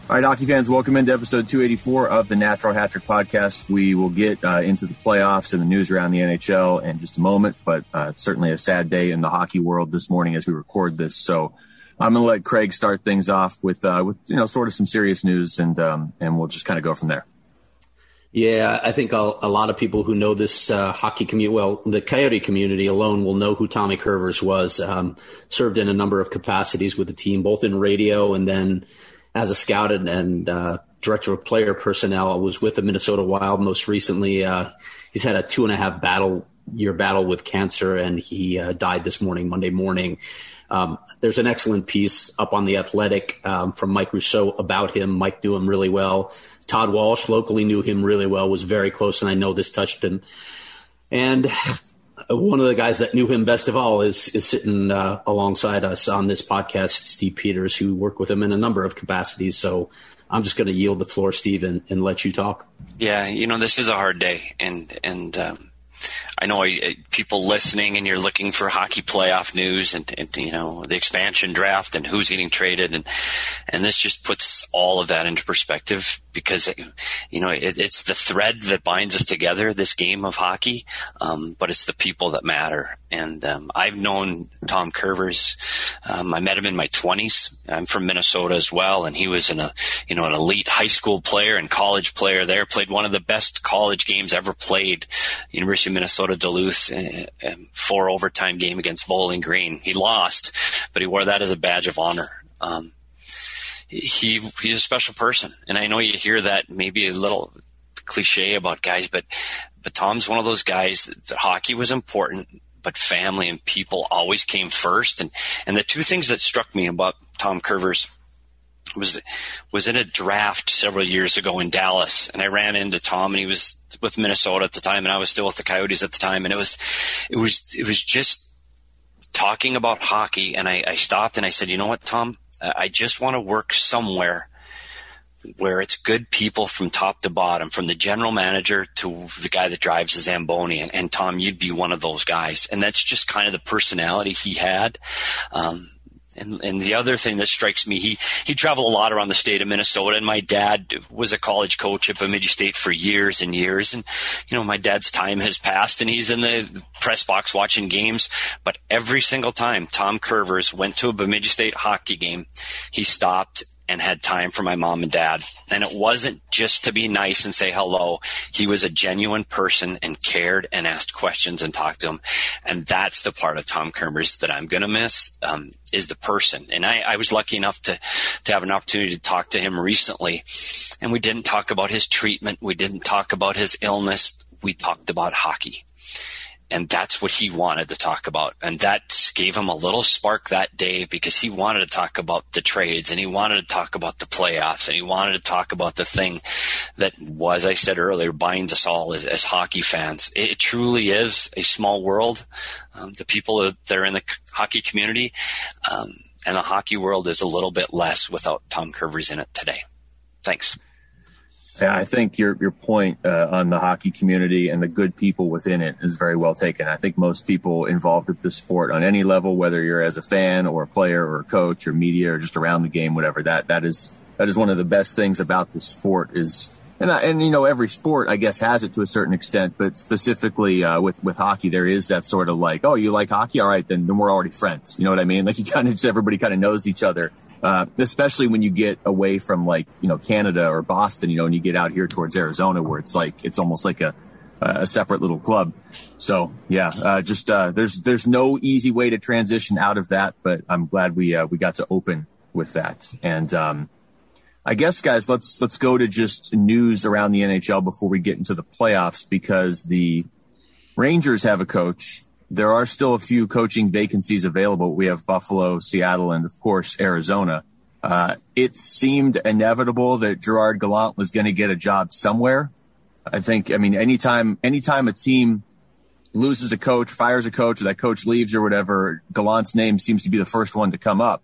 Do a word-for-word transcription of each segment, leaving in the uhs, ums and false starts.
All right, hockey fans, welcome into episode two eighty-four of the Natural Hat Trick podcast. We will get uh, into the playoffs and the news around the N H L in just a moment, but uh, it's certainly a sad day in the hockey world this morning as we record this. So I'm going to let Craig start things off with, uh, with you know, sort of some serious news, and um, and we'll just kind of go from there. Yeah, I think a, a lot of people who know this uh, hockey community, well, the Coyote community alone will know who Tommy Kurvers was. Um, served in a number of capacities with the team, both in radio and then as a scout and, and uh, director of player personnel. I was with the Minnesota Wild most recently. Uh, he's had a two and a half battle year battle with cancer, and he uh, died this morning, Monday morning. Um, there's an excellent piece up on The Athletic um, from Mike Rousseau about him. Mike knew him really well. Todd Walsh locally knew him really well, was very close, and I know this touched him. And one of the guys that knew him best of all is is sitting uh, alongside us on this podcast, Steve Peters, who worked with him in a number of capacities. So I'm just going to yield the floor, Steve, and, and let you talk. Yeah, you know, this is a hard day, and and um, I know I, people listening, and you're looking for hockey playoff news, and, and you know, the expansion draft and who's getting traded, and and this just puts all of that into perspective, because you know it, it's the thread that binds us together, this game of hockey, um, but it's the people that matter. And um, I've known Tom Kurvers. Um, I met him in my twenties. I'm from Minnesota as well, and he was an, a, you know, an elite high school player and college player there. Played one of the best college games ever played, University of Minnesota Duluth, uh, four overtime game against Bowling Green. He lost, but he wore that as a badge of honor. Um, he he's a special person, and I know you hear that maybe a little cliche about guys, but but Tom's one of those guys that, that hockey was important, but family and people always came first. And, and the two things that struck me about Tom Kurvers was, was in a draft several years ago in Dallas. And I ran into Tom, and he was with Minnesota at the time, and I was still with the Coyotes at the time. And it was, it was, it was just talking about hockey. And I, I stopped and I said, you know what, Tom, I just want to work somewhere where it's good people from top to bottom, from the general manager to the guy that drives the Zamboni. And, and Tom, you'd be one of those guys. And that's just kind of the personality he had. Um, and, and the other thing that strikes me, he, he traveled a lot around the state of Minnesota, and my dad was a college coach at Bemidji State for years and years. And, you know, my dad's time has passed, and he's in the press box watching games. But every single time Tom Kurvers went to a Bemidji State hockey game, he stopped and had time for my mom and dad. And it wasn't just to be nice and say hello. He was a genuine person and cared and asked questions and talked to him. And that's the part of Tom Kurvers that I'm going to miss, um, is the person. And I, I was lucky enough to, to have an opportunity to talk to him recently. And we didn't talk about his treatment. We didn't talk about his illness. We talked about hockey. And that's what he wanted to talk about. And that gave him a little spark that day, because he wanted to talk about the trades, and he wanted to talk about the playoffs, and he wanted to talk about the thing that, as I said earlier, binds us all as, as hockey fans. It, it truly is a small world. Um, the people that are in the hockey community, um, and the hockey world is a little bit less without Tom Kurvers in it today. Thanks. Yeah, I think your your point uh, on the hockey community and the good people within it is very well taken. I think most people involved with the sport on any level, whether you're as a fan or a player or a coach or media or just around the game, whatever, that that is that is one of the best things about the sport is, and I, and you know, every sport I guess has it to a certain extent, but specifically uh, with with hockey, there is that sort of like, oh, you like hockey, all right, then then we're already friends. You know what I mean? Like, you kind of just everybody kind of knows each other. Uh, especially when you get away from, like, you know, Canada or Boston, you know, and you get out here towards Arizona, where it's like, it's almost like a, a separate little club. So yeah, uh, just, uh, there's, there's no easy way to transition out of that, but I'm glad we, uh, we got to open with that. And, um, I guess, guys, let's, let's go to just news around the N H L before we get into the playoffs, because the Rangers have a coach. There are still a few coaching vacancies available. We have Buffalo, Seattle, and, of course, Arizona. Uh, it seemed inevitable that Gerard Gallant was going to get a job somewhere. I think, I mean, anytime, anytime a team loses a coach, fires a coach, or that coach leaves or whatever, Gallant's name seems to be the first one to come up.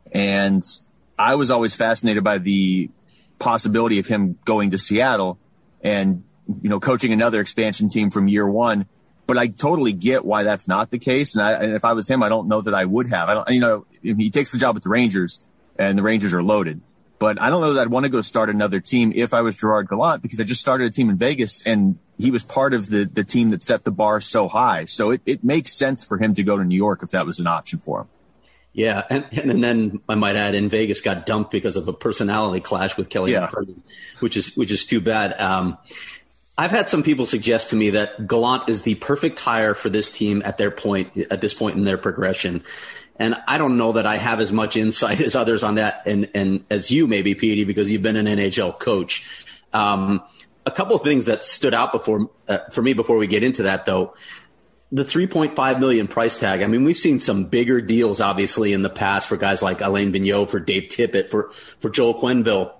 And I was always fascinated by the possibility of him going to Seattle and, you know, coaching another expansion team from year one. But I totally get why that's not the case. And, I, and if I was him, I don't know that I would have. I don't, you know, if he takes the job with the Rangers and the Rangers are loaded, But I don't know that I'd want to go start another team if I was Gerard Gallant, because I just started a team in Vegas and he was part of the, the team that set the bar so high. So it, it makes sense for him to go to New York if that was an option for him. Yeah, and, and then I might add, in Vegas got dumped because of a personality clash with Kelly yeah. McCarthy, which is which is too bad. Um, I've had some people suggest to me that Gallant is the perfect hire for this team at their point at this point in their progression. And I don't know that I have as much insight as others on that, and, and as you maybe, Petey, because you've been an N H L coach. Um, a couple of things that stood out before uh, for me before we get into that, though. The three point five million dollars price tag. I mean, we've seen some bigger deals, obviously, in the past for guys like Alain Vigneault, for Dave Tippett, for, for Joel Quenneville.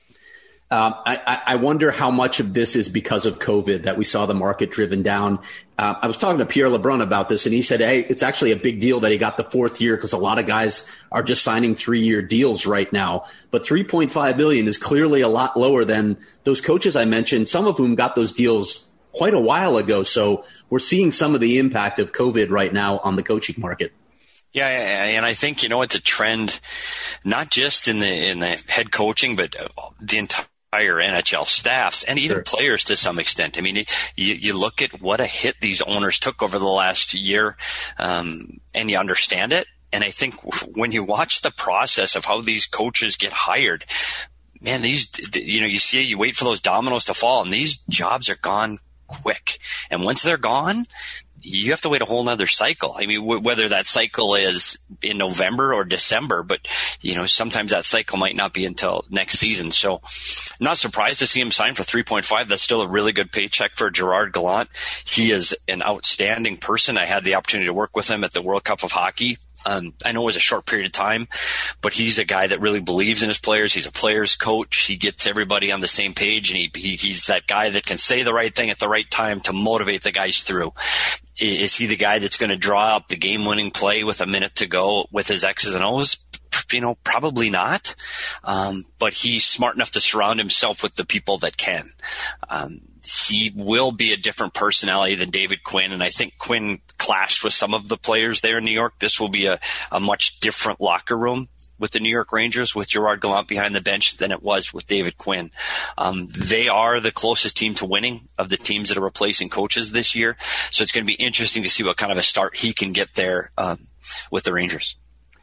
Um, I, I wonder how much of this is because of COVID that we saw the market driven down. Uh, I was talking to Pierre LeBrun about this, and he said, hey, it's actually a big deal that he got the fourth year because a lot of guys are just signing three-year deals right now. But three point five million dollars is clearly a lot lower than those coaches I mentioned, some of whom got those deals quite a while ago. So we're seeing some of the impact of COVID right now on the coaching market. Yeah, and I think, you know, it's a trend, not just in the in the head coaching, but the entire N H L staffs and even sure. players to some extent. I mean, you, you look at what a hit these owners took over the last year, um, and you understand it. And I think when you watch the process of how these coaches get hired, man, these, you know, you see, you wait for those dominoes to fall, and these jobs are gone quick. And once they're gone, you have to wait a whole nother cycle. I mean, w- whether that cycle is in November or December, but, you know, sometimes that cycle might not be until next season. So not surprised to see him sign for three point five. That's still a really good paycheck for Gerard Gallant. He is an outstanding person. I had the opportunity to work with him at the World Cup of Hockey. Um, I know it was a short period of time, but he's a guy that really believes in his players. He's a player's coach. He gets everybody on the same page, and he, he he's that guy that can say the right thing at the right time to motivate the guys through. Is he the guy that's going to draw up the game-winning play with a minute to go with his X's and O's? You know, probably not. Um, but he's smart enough to surround himself with the people that can. Um, he will be a different personality than David Quinn, and I think Quinn clashed with some of the players there in New York. This will be a, a much different locker room with the New York Rangers, with Gerard Gallant behind the bench, than it was with David Quinn. Um, they are the closest team to winning of the teams that are replacing coaches this year. So it's going to be interesting to see what kind of a start he can get there um, with the Rangers.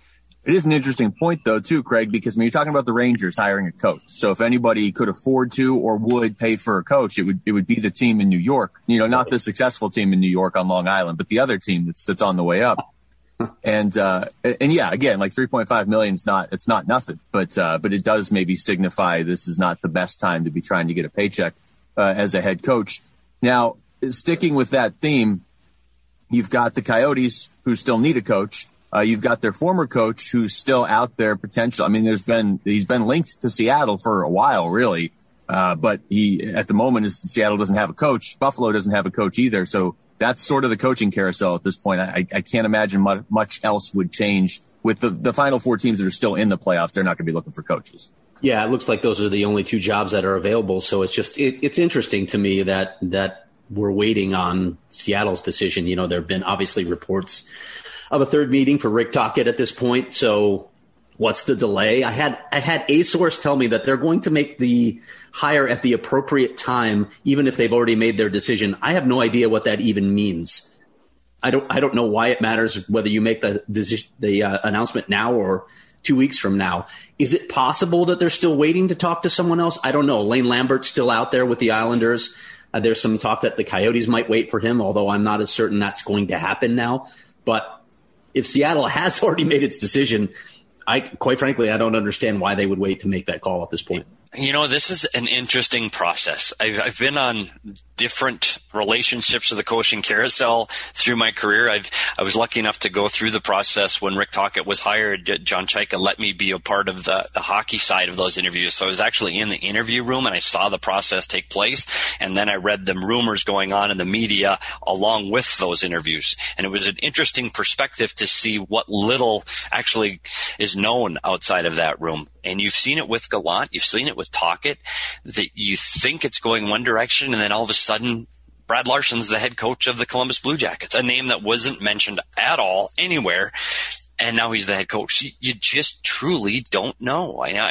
It is an interesting point, though, too, Craig, because when you're talking about the Rangers hiring a coach, so if anybody could afford to or would pay for a coach, it would it would be the team in New York. You know, not the successful team in New York on Long Island, but the other team that's that's on the way up. And uh, and yeah, again, like three point five million is not it's not nothing, but uh, but it does maybe signify this is not the best time to be trying to get a paycheck uh, as a head coach. Now, sticking with that theme, you've got the Coyotes who still need a coach. Uh, you've got their former coach who's still out there potential. I mean, there's been, he's been linked to Seattle for a while, really. Uh, but he, at the moment, is Seattle doesn't have a coach. Buffalo doesn't have a coach either. So that's sort of the coaching carousel at this point. I, I can't imagine much, much else would change with the, the final four teams that are still in the playoffs. They're not going to be looking for coaches. Yeah, it looks like those are the only two jobs that are available. So it's just, it, it's interesting to me that, that we're waiting on Seattle's decision. You know, there have been obviously reports of a third meeting for Rick Tocchet at this point. So what's the delay? I had I had a source tell me that they're going to make the hire at the appropriate time, even if they've already made their decision. I have no idea what that even means. I don't I don't know why it matters whether you make the the, the uh, announcement now or two weeks from now. Is it possible that they're still waiting to talk to someone else? I don't know. Lane Lambert's still out there with the Islanders. Uh, there's some talk that the Coyotes might wait for him, although I'm not as certain that's going to happen now. But if Seattle has already made its decision, I quite frankly, I don't understand why they would wait to make that call at this point. You know, this is an interesting process. I've, I've been on different relationships with the coaching carousel through my career. I've, I was lucky enough to go through the process when Rick Tocchet was hired. John Chaika let me be a part of the, the hockey side of those interviews. So I was actually in the interview room and I saw the process take place. And then I read the rumors going on in the media along with those interviews. And it was an interesting perspective to see what little actually is known outside of that room. And you've seen it with Gallant. You've seen it with Tocchet, that you think it's going one direction, and then all of a sudden, Brad Larsen's the head coach of the Columbus Blue Jackets, a name that wasn't mentioned at all anywhere, and now he's the head coach. You just truly don't know. I, I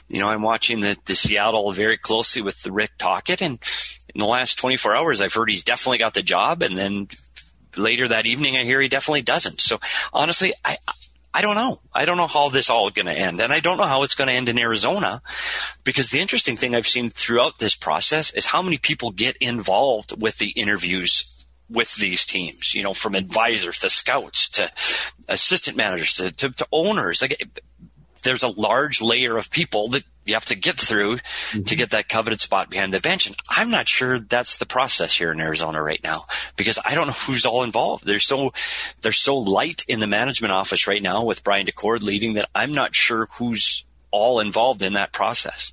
you know, I'm watching the, the Seattle very closely with the Rick Tocchet, and in the last twenty-four hours, I've heard he's definitely got the job, and then later that evening, I hear he definitely doesn't. So honestly, I I don't know. I don't know how this all is going to end, and I don't know how it's going to end in Arizona, because the interesting thing I've seen throughout this process is how many people get involved with the interviews with these teams, you know, from advisors to scouts to assistant managers to, to, to owners. Like, there's a large layer of people that you have to get through mm-hmm. to get that coveted spot behind the bench. And I'm not sure that's the process here in Arizona right now, because I don't know who's all involved. They're so, they're so light in the management office right now with Brian Daccord leading that I'm not sure who's all involved in that process.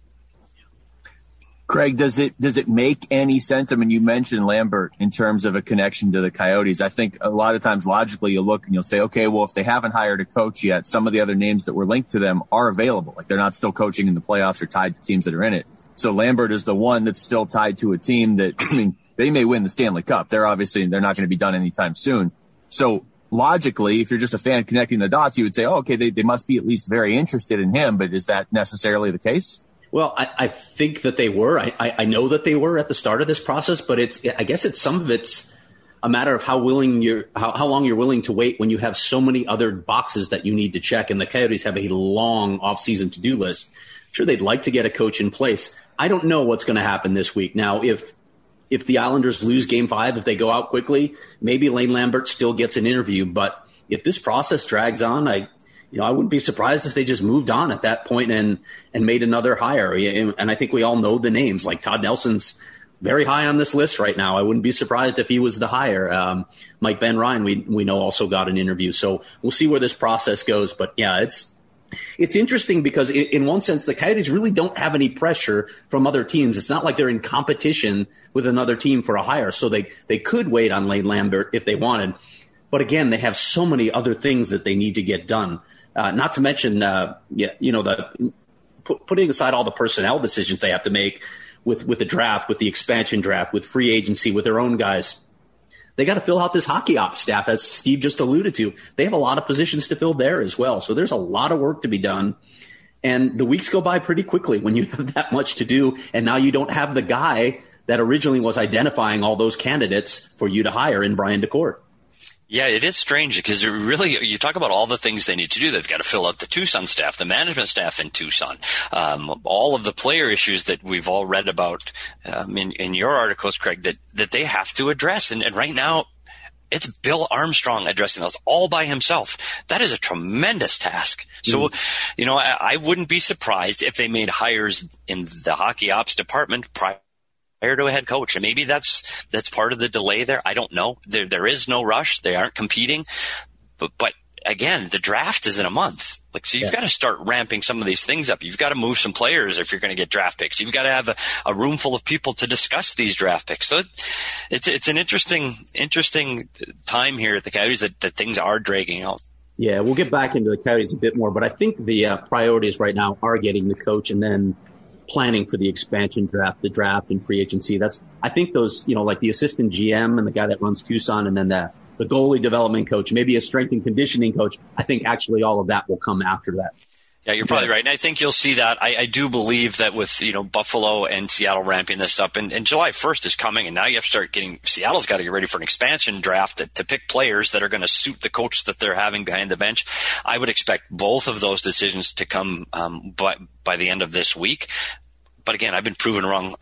Craig, does it does it make any sense? I mean, you mentioned Lambert in terms of a connection to the Coyotes. I think a lot of times logically you'll look and you'll say, okay, well, if they haven't hired a coach yet, some of the other names that were linked to them are available. Like, they're not still coaching in the playoffs or tied to teams that are in it. So Lambert is the one that's still tied to a team that, I mean, they may win the Stanley Cup. They're obviously, they're not going to be done anytime soon. So logically, if you're just a fan connecting the dots, you would say, oh, okay, they, they must be at least very interested in him. But is that necessarily the case? Well, I, I think that they were. I, I, I know that they were at the start of this process, but it's, I guess it's some of it's a matter of how willing you're, how, how long you're willing to wait when you have so many other boxes that you need to check. And the Coyotes have a long off-season to-do list. Sure, they'd like to get a coach in place. I don't know what's going to happen this week. Now, if if the Islanders lose Game Five, if they go out quickly, maybe Lane Lambert still gets an interview. But if this process drags on, I. You know, I wouldn't be surprised if they just moved on at that point and, and made another hire. And I think we all know the names. Like, Todd Nelson's very high on this list right now. I wouldn't be surprised if he was the hire. Um, Mike Van Ryn, we we know, also got an interview. So we'll see where this process goes. But yeah, it's it's interesting because in, in one sense, the Coyotes really don't have any pressure from other teams. It's not like they're in competition with another team for a hire. So they, they could wait on Lane Lambert if they wanted. But again, they have so many other things that they need to get done. Uh, not to mention, uh, yeah, you know, the put, putting aside all the personnel decisions they have to make with, with the draft, with the expansion draft, with free agency, with their own guys. They got to fill out this hockey ops staff, as Steve just alluded to. They have a lot of positions to fill there as well. So there's a lot of work to be done. And the weeks go by pretty quickly when you have that much to do. And now you don't have the guy that originally was identifying all those candidates for you to hire in Brian Daccord. Yeah, it is strange because it really, you talk about all the things they need to do. They've got to fill out the Tucson staff, the management staff in Tucson, um, all of the player issues that we've all read about um, in, in your articles, Craig, that, that they have to address. And, and right now, it's Bill Armstrong addressing those all by himself. That is a tremendous task. So, mm. you know, I, I wouldn't be surprised if they made hires in the hockey ops department prior to a head coach. And maybe that's, that's part of the delay there. I don't know. There, there is no rush. They aren't competing. But, but again, the draft is in a month. Like, so you've yeah. got to start ramping some of these things up. You've got to move some players if you're going to get draft picks. You've got to have a, a room full of people to discuss these draft picks. So it, it's, it's an interesting, interesting time here at the Coyotes that, that things are dragging out. Yeah, we'll get back into the Coyotes a bit more, but I think the uh, priorities right now are getting the coach and then planning for the expansion draft, the draft and free agency. That's, I think those, you know, like the assistant G M and the guy that runs Tucson and then the, the goalie development coach, maybe a strength and conditioning coach. I think actually all of that will come after that. Yeah, you're probably right. And I think you'll see that. I, I do believe that with, you know, Buffalo and Seattle ramping this up, and, and July first is coming, and now you have to start getting, Seattle's got to get ready for an expansion draft to, to pick players that are going to suit the coach that they're having behind the bench. I would expect both of those decisions to come um, by, by the end of this week. But again, I've been proven wrong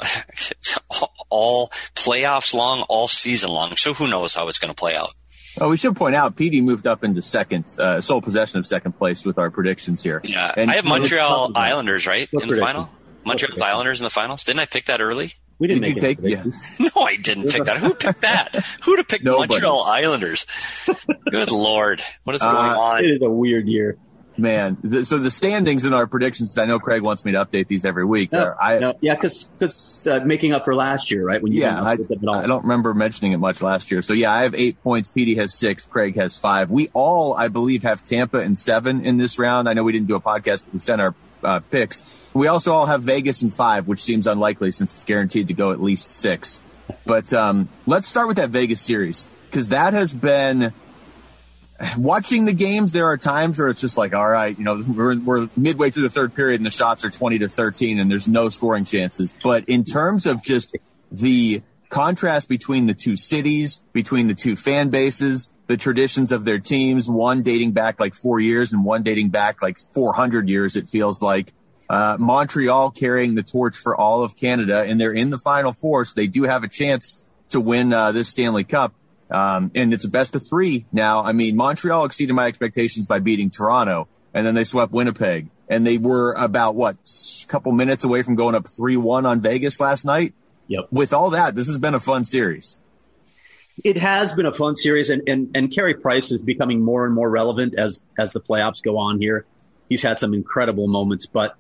all playoffs long, all season long. So who knows how it's going to play out. Oh, we should point out, P D moved up into second, uh, sole possession of second place with our predictions here. Yeah, and I have Montreal Islanders, right, in the final? Montreal Islanders in the finals. Didn't I pick that early? We didn't Did make you take? Yeah. No, I didn't pick that. Who picked that? Who'd have picked Nobody. Montreal Islanders? Good Lord. What is going uh, on? It is a weird year. Man, the, so the standings in our predictions, because I know Craig wants me to update these every week. No, are, I, no, yeah, because uh, making up for last year, right? When you yeah, I, I don't remember mentioning it much last year. So, yeah, I have eight points. P D has six. Craig has five. We all, I believe, have Tampa and seven in this round. I know we didn't do a podcast, but we sent our uh, picks. We also all have Vegas and five, which seems unlikely since it's guaranteed to go at least six. But um, let's start with that Vegas series, because that has been – watching the games, there are times where it's just like, all right, you know, we're, we're midway through the third period and the shots are twenty to thirteen and there's no scoring chances. But in terms of just the contrast between the two cities, between the two fan bases, the traditions of their teams, one dating back like four years and one dating back like four hundred years, it feels like. Uh, Montreal carrying the torch for all of Canada, and they're in the Final Four, so they do have a chance to win uh, this Stanley Cup. Um, and it's a best of three now. I mean, Montreal exceeded my expectations by beating Toronto, and then they swept Winnipeg. And they were about, what, a couple minutes away from going up three one on Vegas last night? Yep. With all that, this has been a fun series. It has been a fun series, and, and, and Carey Price is becoming more and more relevant as, as the playoffs go on here. He's had some incredible moments, but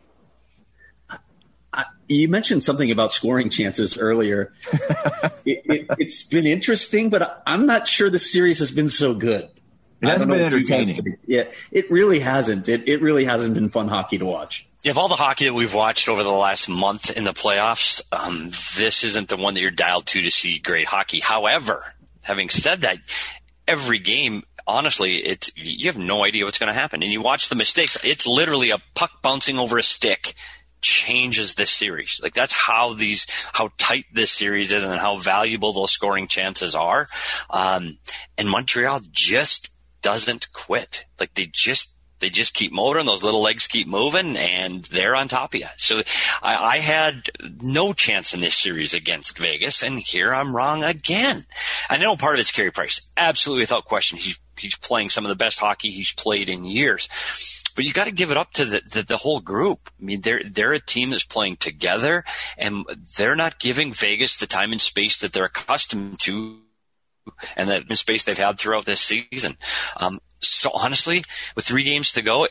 I, you mentioned something about scoring chances earlier. it, it, it's been interesting, but I'm not sure the series has been so good. It hasn't been entertaining. Yeah, it really hasn't. It, it really hasn't been fun hockey to watch. Yeah, of all the hockey that we've watched over the last month in the playoffs, um, this isn't the one that you're dialed to to see great hockey. However, having said that, every game, honestly, it's, you have no idea what's going to happen. And you watch the mistakes. It's literally a puck bouncing over a stick changes this series. Like, that's how these, how tight this series is and how valuable those scoring chances are. Um, and Montreal just doesn't quit. Like, they just, They just keep motoring. Those little legs keep moving, and they're on top of you. So I, I had no chance in this series against Vegas, and here I'm wrong again. I know part of it's Carey Price. Absolutely, without question. He's he's playing some of the best hockey he's played in years. But you got to give it up to the, the, the whole group. I mean, they're they're a team that's playing together, and they're not giving Vegas the time and space that they're accustomed to, and that space they've had throughout this season. Um, so honestly, with three games to go,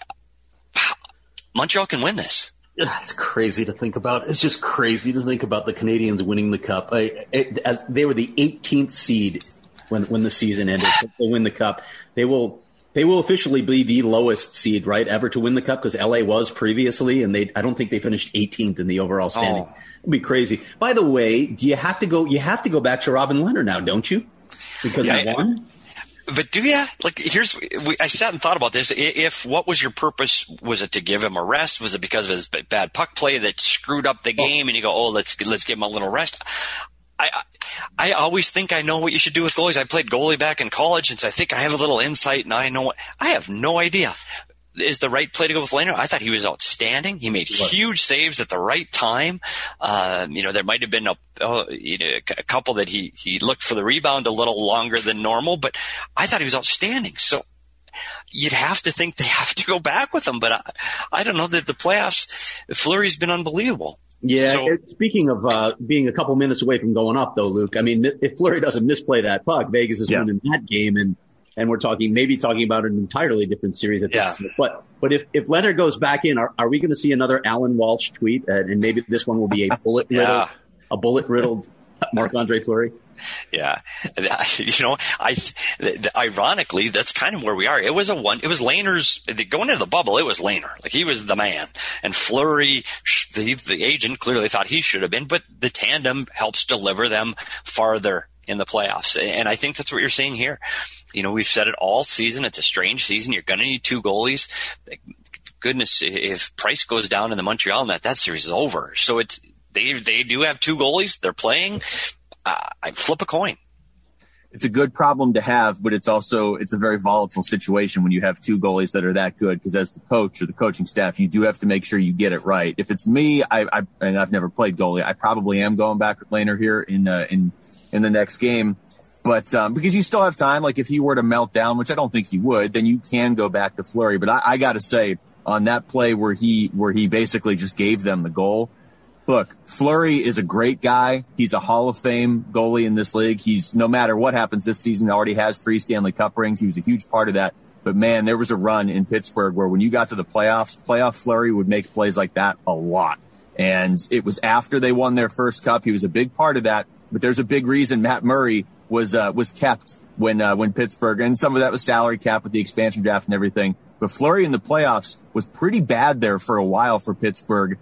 Montreal can win this. It's crazy to think about. It's just crazy to think about the Canadians winning the Cup. I, it, as they were the eighteenth seed when when the season ended. They win the Cup. They will they will officially be the lowest seed, right, ever to win the Cup, because L A was previously, and they I don't think they finished eighteenth in the overall standings. Oh. It'd be crazy. By the way, do you have to go? You have to go back to Robin Lehner now, don't you? Because yeah, he won. But do you? Like, here's, we, I sat and thought about this. If, what was your purpose? Was it to give him a rest? Was it because of his bad puck play that screwed up the game? And you go, oh, let's, let's give him a little rest. I, I, I always think I know what you should do with goalies. I played goalie back in college, and so I think I have a little insight, and I know what, I have no idea. Is the right play to go with Lehner? I thought he was outstanding. He made huge saves at the right time. Um, you know, there might have been a, oh, you know, a couple that he, he looked for the rebound a little longer than normal, but I thought he was outstanding. So you'd have to think they have to go back with him, but I, I don't know that the playoffs, Fleury's been unbelievable. Yeah. So, speaking of uh, being a couple minutes away from going up, though, Luke, I mean, if Fleury doesn't misplay that puck, Vegas is yeah. winning that game, and And we're talking, maybe talking about an entirely different series at this yeah. point. But, but if, if Lehner goes back in, are, are we going to see another Alan Walsh tweet? Uh, and maybe this one will be a bullet riddled, yeah. a bullet riddled Marc-Andre Fleury. Yeah. You know, I, ironically, that's kind of where we are. It was a one, it was Lehner's, going into the bubble, it was Lehner. Like, he was the man. And Fleury, the, the agent, clearly thought he should have been, but the tandem helps deliver them farther in the playoffs. And I think that's what you're seeing here. You know, we've said it all season. It's a strange season. You're going to need two goalies. Goodness, if Price goes down in the Montreal net, that series is over. So it's, they, they do have two goalies. They're playing. Uh, I flip a coin. It's a good problem to have, but it's also, it's a very volatile situation when you have two goalies that are that good, because as the coach or the coaching staff, you do have to make sure you get it right. If it's me, I, I and I've never played goalie, I probably am going back with Lehner here in, uh, in, in the next game. But um, because you still have time, like if he were to melt down, which I don't think he would, then you can go back to Fleury. But I, I got to say, on that play where he where he basically just gave them the goal, look, Fleury is a great guy. He's a Hall of Fame goalie in this league. He's, no matter what happens this season, already has three Stanley Cup rings. He was a huge part of that. But, man, there was a run in Pittsburgh where when you got to the playoffs, playoff Fleury would make plays like that a lot. And it was after they won their first cup. He was a big part of that. But there's a big reason Matt Murray was uh, was kept when uh, when Pittsburgh, and some of that was salary cap with the expansion draft and everything. But Fleury in the playoffs was pretty bad there for a while for Pittsburgh.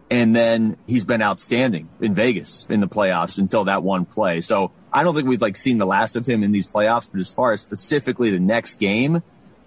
And then he's been outstanding in Vegas in the playoffs until that one play. So I don't think we've like seen the last of him in these playoffs. But as far as specifically the next game,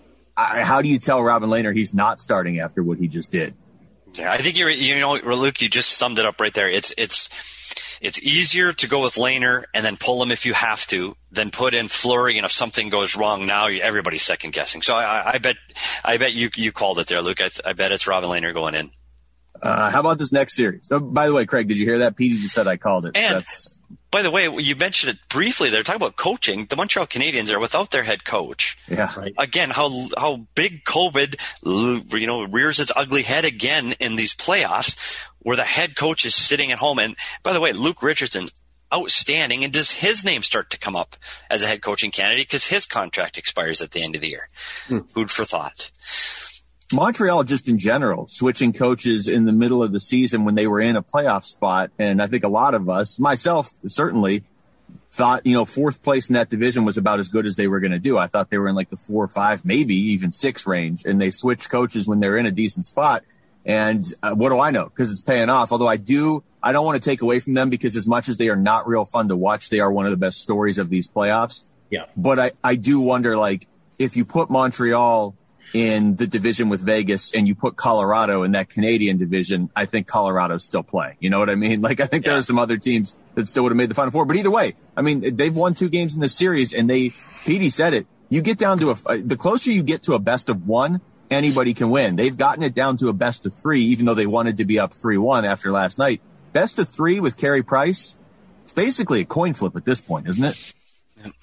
I, how do you tell Robin Lehner he's not starting after what he just did? Yeah, I think you're, you know, Luke, you just summed it up right there. It's, it's, it's easier to go with Lehner and then pull him if you have to, than put in Fleury. And if something goes wrong now, everybody's second guessing. So I, I bet, I bet you, you called it there, Luke. I, I bet it's Robin Lehner going in. Uh, how about this next series? Oh, by the way, Craig, did you hear that? Petey just said I called it. And That's... by the way, you mentioned it briefly. They're talking about coaching. The Montreal Canadiens are without their head coach. Yeah. Right. Again, how how big COVID, you know, rears its ugly head again in these playoffs, where the head coach is sitting at home. And by the way, Luke Richardson, outstanding. And does his name start to come up as a head coaching candidate because his contract expires at the end of the year? Hmm. Food for thought. Montreal, just in general, switching coaches in the middle of the season when they were in a playoff spot. And I think a lot of us, myself certainly, thought, you know, fourth place in that division was about as good as they were going to do. I thought they were in like the four or five, maybe even six range. And they switched coaches when they're in a decent spot. And uh, what do I know? Because it's paying off. Although I do, I don't want to take away from them because as much as they are not real fun to watch, they are one of the best stories of these playoffs. Yeah. But I, I do wonder, like, if you put Montreal in the division with Vegas and you put Colorado in that Canadian division, I think Colorado still play. You know what I mean? Like, I think yeah. there are some other teams that still would have made the Final Four. But either way, I mean, they've won two games in this series, and they, Petey said it, you get down to a, the closer you get to a best of one, anybody can win. They've gotten it down to a best of three, even though they wanted to be up three one after last night. Best of three with Carey Price, it's basically a coin flip at this point, isn't it? Yep.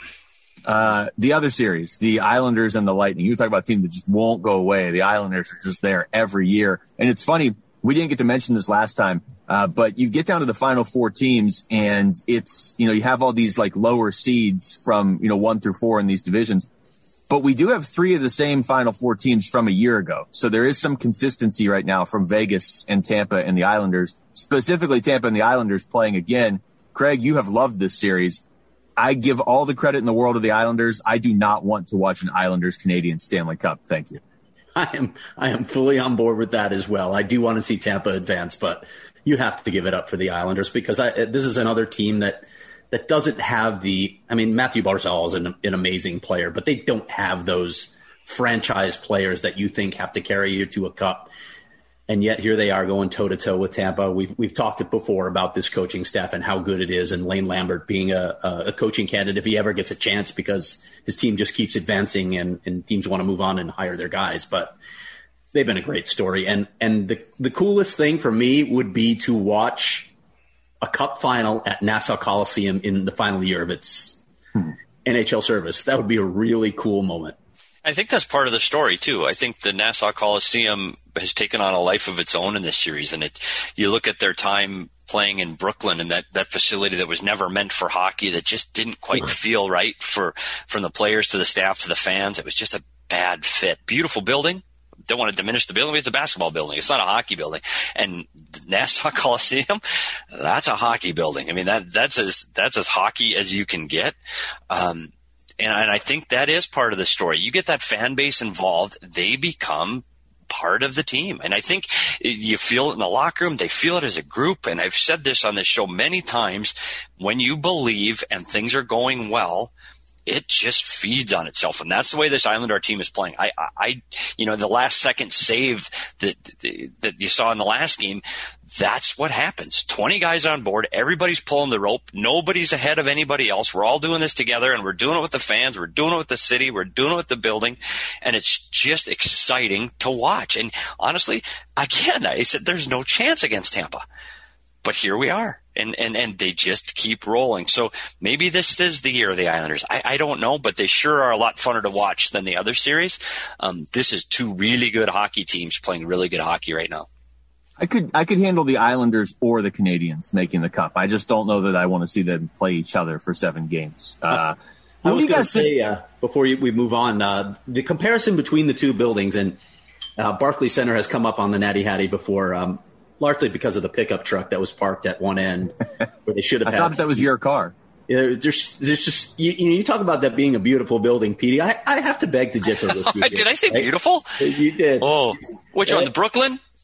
Uh, the other series, the Islanders and the Lightning. You talk about a team that just won't go away. The Islanders are just there every year. And it's funny, we didn't get to mention this last time, uh, but you get down to the final four teams and it's, you know, you have all these like lower seeds from, you know, one through four in these divisions. But we do have three of the same final four teams from a year ago. So there is some consistency right now from Vegas and Tampa and the Islanders, specifically Tampa and the Islanders playing again. Craig, you have loved this series. I give all the credit in the world to the Islanders. I do not want to watch an Islanders Canadian Stanley Cup. Thank you. I am I am fully on board with that as well. I do want to see Tampa advance, but you have to give it up for the Islanders because I, this is another team that that doesn't have the – I mean, Matthew Barzal is an, an amazing player, but they don't have those franchise players that you think have to carry you to a cup. And yet here they are going toe-to-toe with Tampa. We've we've talked it before about this coaching staff and how good it is, and Lane Lambert being a, a coaching candidate if he ever gets a chance because his team just keeps advancing and, and teams want to move on and hire their guys. But they've been a great story. And and the, the coolest thing for me would be to watch a cup final at Nassau Coliseum in the final year of its hmm. N H L service. That would be a really cool moment. I think that's part of the story, too. I think the Nassau Coliseum has taken on a life of its own in this series. And it, you look at their time playing in Brooklyn and that, that facility that was never meant for hockey, that just didn't quite right. feel right for from the players to the staff to the fans. It was just a bad fit. Beautiful building. Don't want to diminish the building. It's a basketball building. It's not a hockey building. And the Nassau Coliseum, that's a hockey building. I mean, that that's as that's as hockey as you can get. Um, And, and I think that is part of the story. You get that fan base involved, they become part of the team. And I think you feel it in the locker room. They feel it as a group. And I've said this on this show many times. When you believe and things are going well, it just feeds on itself. And that's the way this Islander team is playing. I, I, you know, the last second save that, that you saw in the last game, that's what happens. twenty guys on board. Everybody's pulling the rope. Nobody's ahead of anybody else. We're all doing this together, and we're doing it with the fans. We're doing it with the city. We're doing it with the building. And it's just exciting to watch. And honestly, again, I said there's no chance against Tampa. But here we are. And, and, and they just keep rolling. So maybe this is the year of the Islanders. I, I don't know, but they sure are a lot funner to watch than the other series. Um, this is two really good hockey teams playing really good hockey right now. I could I could handle the Islanders or the Canadians making the cup. I just don't know that I want to see them play each other for seven games. Uh, I was going to say, uh, before you, we move on, uh, the comparison between the two buildings, and uh, Barclays Center has come up on the Natty Hattie before, um, largely because of the pickup truck that was parked at one end where they should have I had. thought that was your car. Yeah, there's, there's just you, you talk about that being a beautiful building, Petey. I, I have to beg to differ with you. Did I say right? beautiful? You did. Oh, which one? The Brooklyn?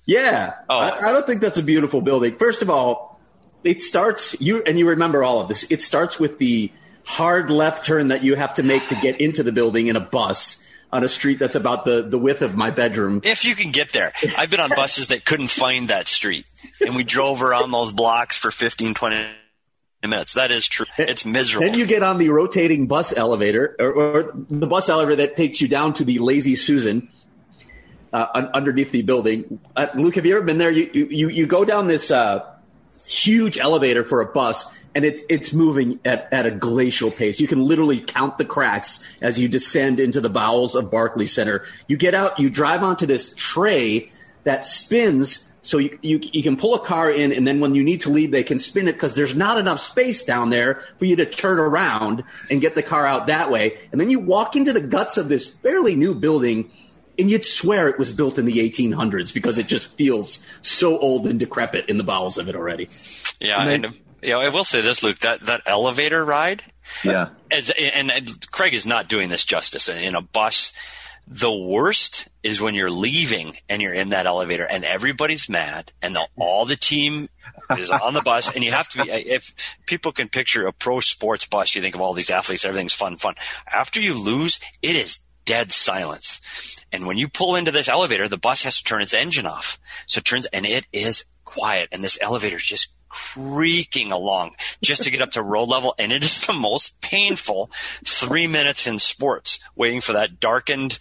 Yeah. Oh. I, I don't think that's a beautiful building. First of all, it starts, you and you remember all of this, it starts with the hard left turn that you have to make to get into the building in a bus on a street that's about the, the width of my bedroom. If you can get there. I've been on buses that couldn't find that street, and we drove around those blocks for fifteen, twenty minutes. That is true. It's miserable. Then you get on the rotating bus elevator, or, or the bus elevator that takes you down to the Lazy Susan uh, un- underneath the building. Uh, Luke, have you ever been there? You you, you go down this uh, huge elevator for a bus, and it's it's moving at, at a glacial pace. You can literally count the cracks as you descend into the bowels of Barclays Center. You get out, you drive onto this tray that spins. So you, you you can pull a car in, and then when you need to leave, they can spin it because there's not enough space down there for you to turn around and get the car out that way. And then you walk into the guts of this fairly new building, and you'd swear it was built in the eighteen hundreds because it just feels so old and decrepit in the bowels of it already. Yeah, and, then, and you know, I will say this, Luke, that, that elevator ride, yeah, as, and, and Craig is not doing this justice. In a bus, the worst is when you're leaving and you're in that elevator and everybody's mad and the, all the team is on the bus, and you have to be, if people can picture a pro sports bus, you think of all these athletes, everything's fun, fun. After you lose, it is dead silence. And when you pull into this elevator, the bus has to turn its engine off. So it turns, and it is quiet. And this elevator is just creaking along just to get up to road level. And it is the most painful three minutes in sports, waiting for that darkened,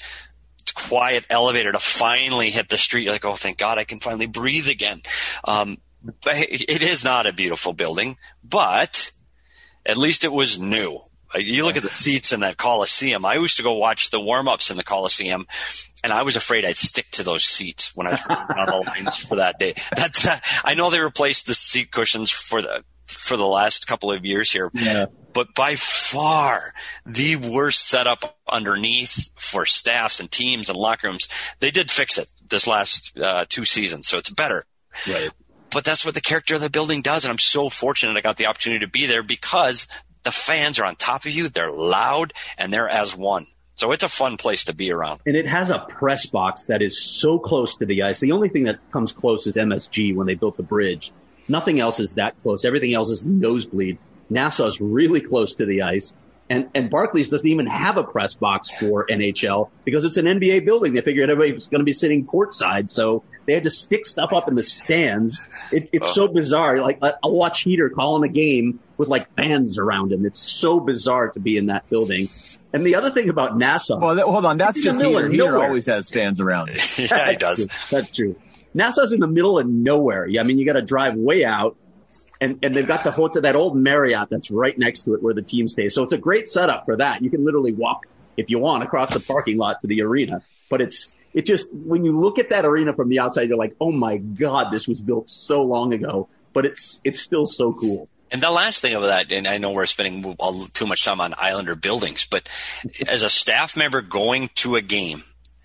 quiet elevator to finally hit the street. You're like, oh, thank God I can finally breathe again. Um, it is not a beautiful building, but at least it was new. You look at the seats in that Coliseum. I used to go watch the warm-ups in the Coliseum, and I was afraid I'd stick to those seats when I was on the lines for that day. That's, uh, I know they replaced the seat cushions for the for the last couple of years here, yeah. But by far the worst setup underneath for staffs and teams and locker rooms. They did fix it this last uh, two seasons, so it's better. Right. But that's what the character of the building does, and I'm so fortunate I got the opportunity to be there because the fans are on top of you, they're loud, and they're as one. So it's a fun place to be around. And it has a press box that is so close to the ice. The only thing that comes close is M S G when they built the bridge. Nothing else is that close. Everything else is nosebleed. Nassau's really close to the ice. And, and Barclays doesn't even have a press box for N H L because it's an N B A building. They figured everybody was going to be sitting courtside, so they had to stick stuff up in the stands. It, it's oh. so bizarre. Like, I'll watch Heater calling a game with like fans around him. It's so bizarre to be in that building. And the other thing about Nassau. Well, that, hold on. That's just Heater. Heater always has fans around him. Yeah, he does. That's true. Nassau's in the middle of nowhere. Yeah, I mean, you got to drive way out. And, and they've got the hotel, that old Marriott that's right next to it where the team stays. So it's a great setup for that. You can literally walk, if you want, across the parking lot to the arena. But it's it just, when you look at that arena from the outside, you're like, oh my God, this was built so long ago. But it's it's still so cool. And the last thing of that, and I know we're spending all, too much time on Islander buildings, but as a staff member going to a game,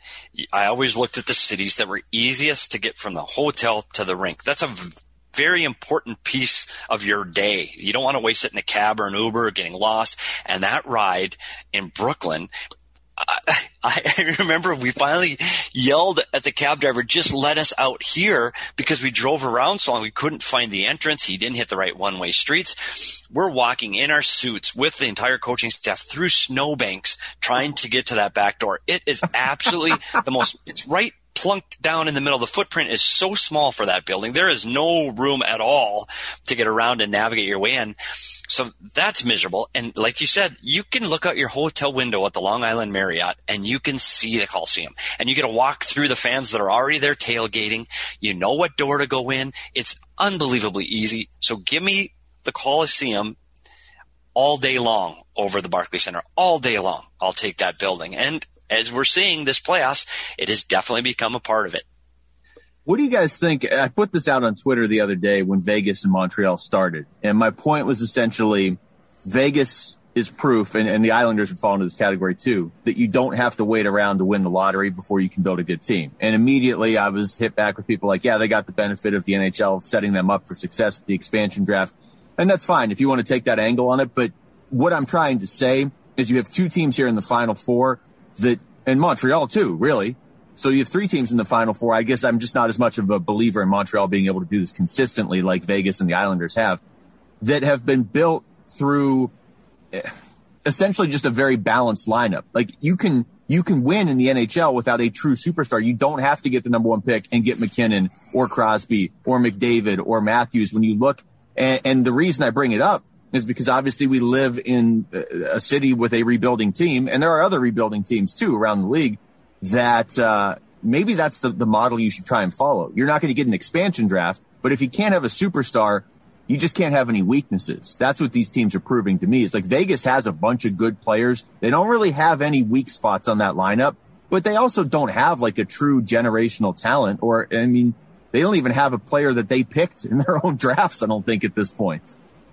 I always looked at the cities that were easiest to get from the hotel to the rink. That's a very important piece of your day. You don't want to waste it in a cab or an Uber or getting lost. And that ride in Brooklyn, I, I remember we finally yelled at the cab driver, just let us out here, because we drove around so long we couldn't find the entrance. He didn't hit the right one-way streets. We're walking in our suits with the entire coaching staff through snowbanks trying to get to that back door. It is absolutely the most – it's right plunked down in the middle. The footprint is so small for that building. There is no room at all to get around and navigate your way in. So that's miserable. And like you said, you can look out your hotel window at the Long Island Marriott and you can see the Coliseum. And you get to walk through the fans that are already there tailgating. You know what door to go in. It's unbelievably easy. So give me the Coliseum all day long over the Barclays Center. All day long. I'll take that building. And as we're seeing this playoffs, it has definitely become a part of it. What do you guys think? I put this out on Twitter the other day when Vegas and Montreal started. And my point was essentially Vegas is proof, and, and the Islanders would fall into this category too, that you don't have to wait around to win the lottery before you can build a good team. And immediately I was hit back with people like, yeah, they got the benefit of the N H L setting them up for success with the expansion draft. And that's fine if you want to take that angle on it. But what I'm trying to say is you have two teams here in the Final Four that, and Montreal too, really, So you have three teams in the Final Four. I guess I'm just not as much of a believer in Montreal being able to do this consistently like Vegas and the Islanders have, that have been built through essentially just a very balanced lineup. Like you can you can win in the N H L without a true superstar. You don't have to get the number one pick and get McKinnon or Crosby or McDavid or Matthews. When you look, and, and the reason I bring it up is because obviously we live in a city with a rebuilding team, and there are other rebuilding teams too around the league that uh, maybe that's the, the model you should try and follow. You're not going to get an expansion draft, but if you can't have a superstar, you just can't have any weaknesses. That's what these teams are proving to me. It's like Vegas has a bunch of good players. They don't really have any weak spots on that lineup, but they also don't have like a true generational talent, or, I mean, they don't even have a player that they picked in their own drafts, I don't think, at this point.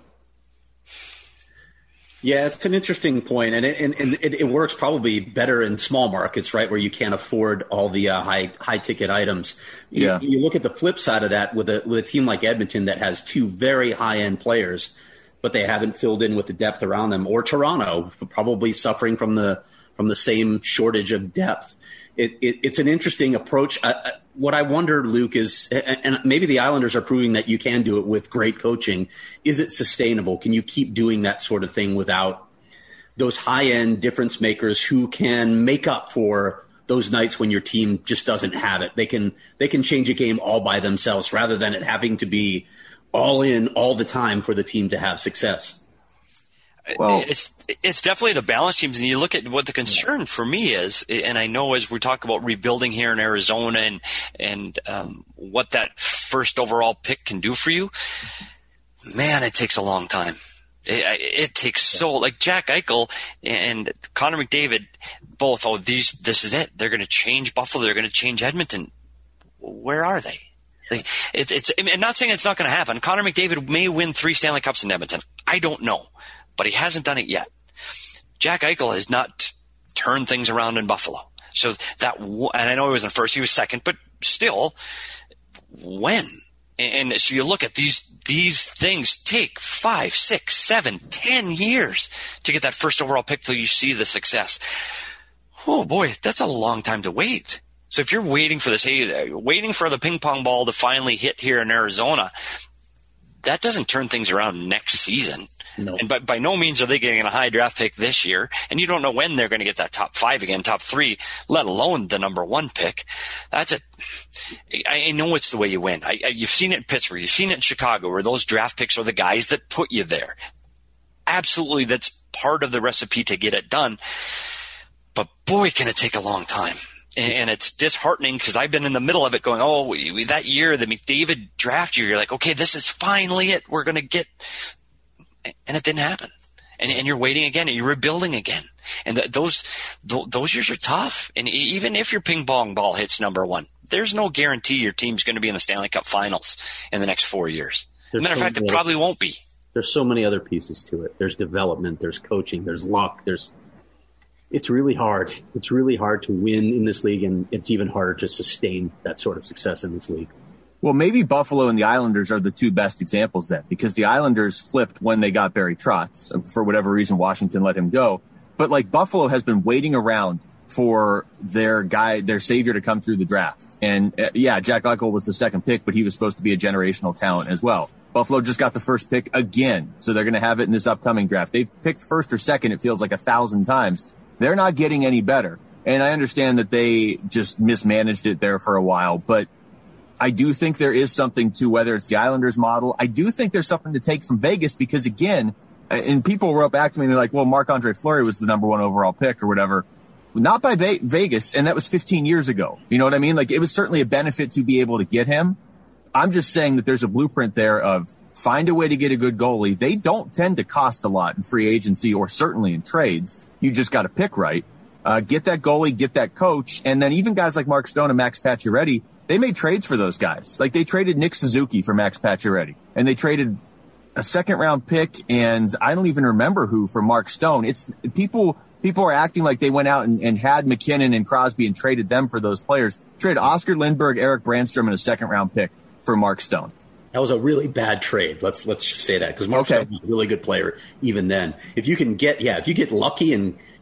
Yeah, it's an interesting point, and it, and, and it, it works probably better in small markets, right, where you can't afford all the uh, high high ticket items. You, yeah. you look at the flip side of that with a with a team like Edmonton that has two very high end players, but they haven't filled in with the depth around them, or Toronto probably suffering from the from the same shortage of depth. It, it, it's an interesting approach. Uh, what I wonder, Luke, is, and maybe the Islanders are proving that you can do it with great coaching. Is it sustainable? Can you keep doing that sort of thing without those high-end difference makers who can make up for those nights when your team just doesn't have it? They can they can change a game all by themselves rather than it having to be all in all the time for the team to have success. Well, it's it's definitely the balance teams, and you look at what the concern for me is, and I know as we talk about rebuilding here in Arizona and and um, what that first overall pick can do for you, man, it takes a long time. It, it takes so like Jack Eichel and Connor McDavid, both. Oh, these this is it. They're going to change Buffalo. They're going to change Edmonton. Where are they? Like, it, it's. I'm not saying it's not going to happen. Connor McDavid may win three Stanley Cups in Edmonton. I don't know. But he hasn't done it yet. Jack Eichel has not turned things around in Buffalo. So that, and I know he wasn't first, he was second, but still, when? And so you look at these, these things take five, six, seven, ten years to get that first overall pick till you see the success. Oh boy, that's a long time to wait. So if you're waiting for this, hey, waiting for the ping pong ball to finally hit here in Arizona, that doesn't turn things around next season. No. And by, by no means are they getting a high draft pick this year. And you don't know when they're going to get that top five again, top three, let alone the number one pick. That's a, I know it's the way you win. I, I, you've seen it in Pittsburgh. You've seen it in Chicago, where those draft picks are the guys that put you there. Absolutely. That's part of the recipe to get it done. But boy, can it take a long time. And it's disheartening because I've been in the middle of it going, oh, we, we, that year, the McDavid draft year, you're like, okay, this is finally it. We're going to get, and it didn't happen. And, and you're waiting again, and you're rebuilding again. And th- those th- those years are tough. And even if your ping pong ball hits number one, there's no guarantee your team's going to be in the Stanley Cup Finals in the next four years. As a matter of fact, it probably won't be. There's so many other pieces to it. There's development, there's coaching, there's luck, there's It's really hard. It's really hard to win in this league, and it's even harder to sustain that sort of success in this league. Well, maybe Buffalo and the Islanders are the two best examples then, because the Islanders flipped when they got Barry Trotz. For whatever reason, Washington let him go. But like Buffalo has been waiting around for their guy, their savior to come through the draft. And uh, yeah, Jack Eichel was the second pick, but he was supposed to be a generational talent as well. Buffalo just got the first pick again, so they're going to have it in this upcoming draft. They've picked first or second, it feels like a thousand times. They're not getting any better. And I understand that they just mismanaged it there for a while, but I do think there is something to whether it's the Islanders model. I do think there's something to take from Vegas because, again, and people wrote back to me and they're like, well, Marc-Andre Fleury was the number one overall pick or whatever. Not by Ve- Vegas, and that was fifteen years ago. You know what I mean? Like, it was certainly a benefit to be able to get him. I'm just saying that there's a blueprint there of find a way to get a good goalie. They don't tend to cost a lot in free agency or certainly in trades. You just got to pick right. Uh, get that goalie, get that coach, and then even guys like Mark Stone and Max Pacioretty, they made trades for those guys. Like, they traded Nick Suzuki for Max Pacioretty, and they traded a second round pick, and I don't even remember who, for Mark Stone. It's people, people are acting like they went out and, and had McKinnon and Crosby and traded them for those players. Traded Oscar Lindberg, Eric Brandstrom, and a second round pick for Mark Stone. That was a really bad trade. Let's let's just say that, because Mark okay. Stone was a really good player even then. If you can get, yeah, if you get lucky and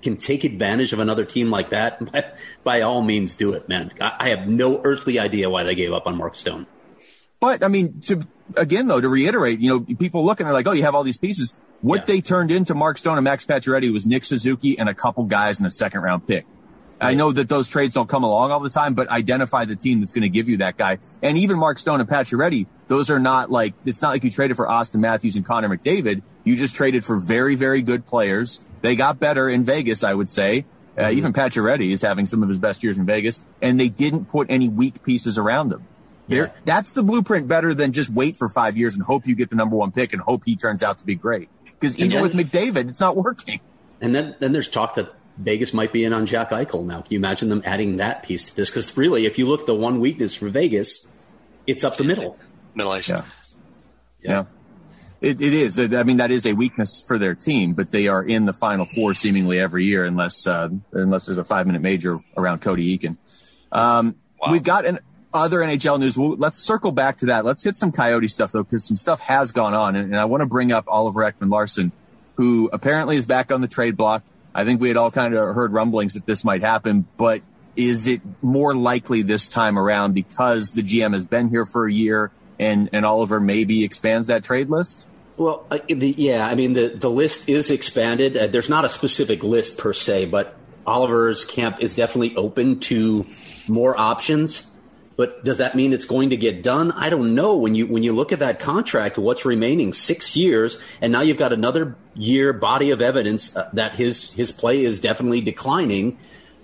can take advantage of another team like that, by, by all means do it, man. I, I have no earthly idea why they gave up on Mark Stone. But, I mean, to, again, though, to reiterate, you know, people look and they're like, oh, you have all these pieces. What yeah. they turned into Mark Stone and Max Pacioretty was Nick Suzuki and a couple guys in a second-round pick. Right. I know that those trades don't come along all the time, but identify the team that's going to give you that guy. And even Mark Stone and Pacioretty, those are not like, it's not like you traded for Austin Matthews and Connor McDavid. You just traded for very, very good players. They got better in Vegas, I would say. Uh, mm-hmm. Even Pacioretty is having some of his best years in Vegas, and they didn't put any weak pieces around him. Yeah. That's the blueprint better than just wait for five years and hope you get the number one pick and hope he turns out to be great. Because even then, with McDavid, it's not working. And then, then there's talk that Vegas might be in on Jack Eichel now. Can you imagine them adding that piece to this? Because really, if you look at the one weakness for Vegas, it's up the middle. Middle ice. Yeah. Yeah. yeah. It, it is. I mean, that is a weakness for their team, but they are in the Final Four seemingly every year unless uh, unless there's a five-minute major around Cody Eakin. Um, wow. We've got an other N H L news. We'll, let's circle back to that. Let's hit some Coyote stuff, though, because some stuff has gone on. And, and I want to bring up Oliver Ekman-Larsson, who apparently is back on the trade block. I think we had all kind of heard rumblings that this might happen, but is it more likely this time around because the G M has been here for a year and, and Oliver maybe expands that trade list? Well, uh, the, yeah, I mean, the, the list is expanded. Uh, there's not a specific list per se, but Oliver's camp is definitely open to more options. But does that mean it's going to get done? I don't know. When you when you look at that contract, what's remaining, six years, and now you've got another year body of evidence uh, that his his play is definitely declining.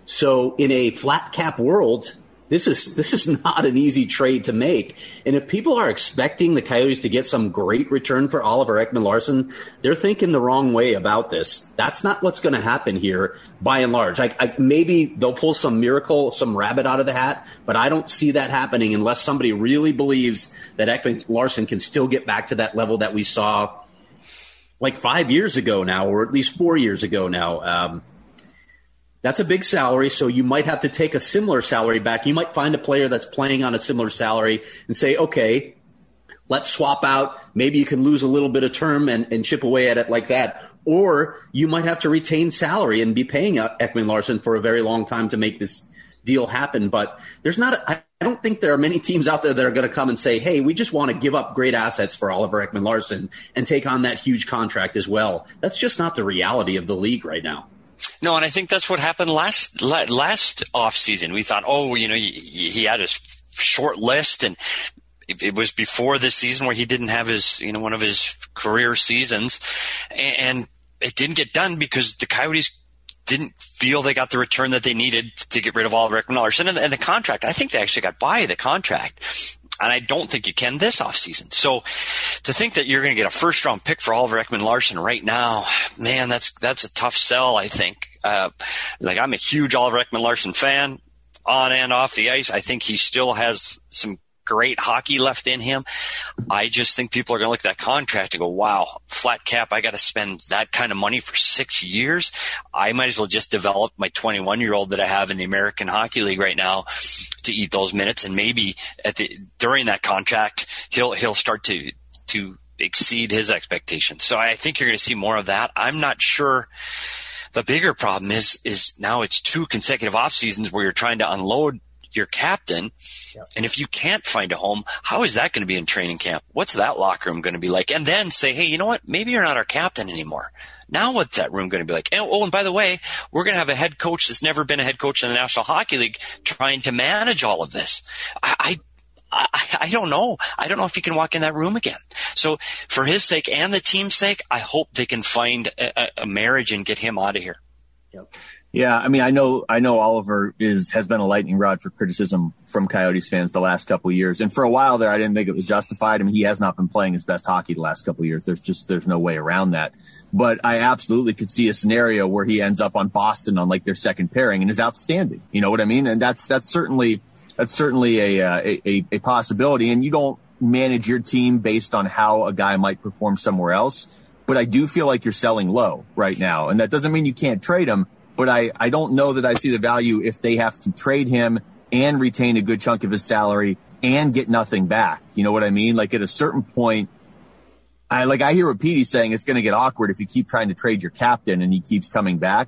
So in a flat cap world, this is this is not an easy trade to make. And if people are expecting the Coyotes to get some great return for Oliver Ekman-Larsson, they're thinking the wrong way about this. That's not what's going to happen here, by and large. I, I, maybe they'll pull some miracle, some rabbit out of the hat, but I don't see that happening unless somebody really believes that Ekman-Larsson can still get back to that level that we saw like five years ago now, or at least four years ago now. Um, That's a big salary, so you might have to take a similar salary back. You might find a player that's playing on a similar salary and say, okay, let's swap out. Maybe you can lose a little bit of term and, and chip away at it like that. Or you might have to retain salary and be paying Ekman-Larsson for a very long time to make this deal happen. But there's not – I don't think there are many teams out there that are going to come and say, hey, we just want to give up great assets for Oliver Ekman-Larsson and take on that huge contract as well. That's just not the reality of the league right now. No, and I think that's what happened last last off season. We thought, oh, you know, he, he had a short list, and it, it was before this season where he didn't have his, you know, one of his career seasons, and it didn't get done because the Coyotes didn't feel they got the return that they needed to get rid of Oliver Ekman-Larsson and, and the contract. I think they actually got by the contract. And I don't think you can this offseason. So to think that you're going to get a first-round pick for Oliver Ekman-Larsson right now, man, that's that's a tough sell, I think. Uh, like, I'm a huge Oliver Ekman-Larsson fan, on and off the ice. I think he still has some great hockey left in him. I just think people are going to look at that contract and go, wow, flat cap, I got to spend that kind of money for six years. I might as well just develop my twenty-one-year-old that I have in the American Hockey League right now to eat those minutes, and maybe at the during that contract he'll he'll start to to exceed his expectations. So I think you're going to see more of that. I'm not sure. The bigger problem is is now it's two consecutive off seasons where you're trying to unload your captain. Yep. And if you can't find a home, how is that going to be in training camp? What's that locker room going to be like? And then say, hey, you know what? Maybe you're not our captain anymore. Now what's that room going to be like? And, oh, and by the way, we're going to have a head coach that's never been a head coach in the National Hockey League trying to manage all of this. I, I, I don't know. I don't know if he can walk in that room again. So for his sake and the team's sake, I hope they can find a, a marriage and get him out of here. Yep. Yeah, I mean, I know, I know Oliver is has been a lightning rod for criticism from Coyotes fans the last couple of years, and for a while there, I didn't think it was justified. I mean, he has not been playing his best hockey the last couple of years. There's just there's no way around that. But I absolutely could see a scenario where he ends up on Boston on like their second pairing and is outstanding. You know what I mean? And that's that's certainly that's certainly a uh, a, a possibility. And you don't manage your team based on how a guy might perform somewhere else. But I do feel like you're selling low right now, and that doesn't mean you can't trade him. But I, I don't know that I see the value if they have to trade him and retain a good chunk of his salary and get nothing back. You know what I mean? Like at a certain point, I like I hear what Petey's saying. It's going to get awkward if you keep trying to trade your captain and he keeps coming back.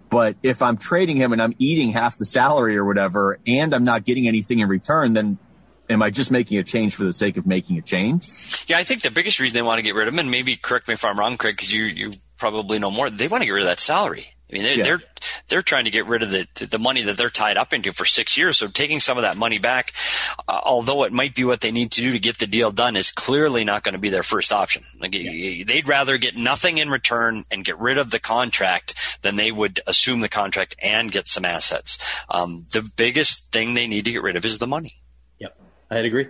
But if I'm trading him and I'm eating half the salary or whatever, and I'm not getting anything in return, then am I just making a change for the sake of making a change? Yeah, I think the biggest reason they want to get rid of him, and maybe correct me if I'm wrong, Craig, because you, you probably know more, they want to get rid of that salary. I mean, they're, yeah. they're, they're trying to get rid of the, the money that they're tied up into for six years. So taking some of that money back, uh, although it might be what they need to do to get the deal done, is clearly not going to be their first option. Like, yeah. They'd rather get nothing in return and get rid of the contract than they would assume the contract and get some assets. Um, the biggest thing they need to get rid of is the money. Yep. I'd agree.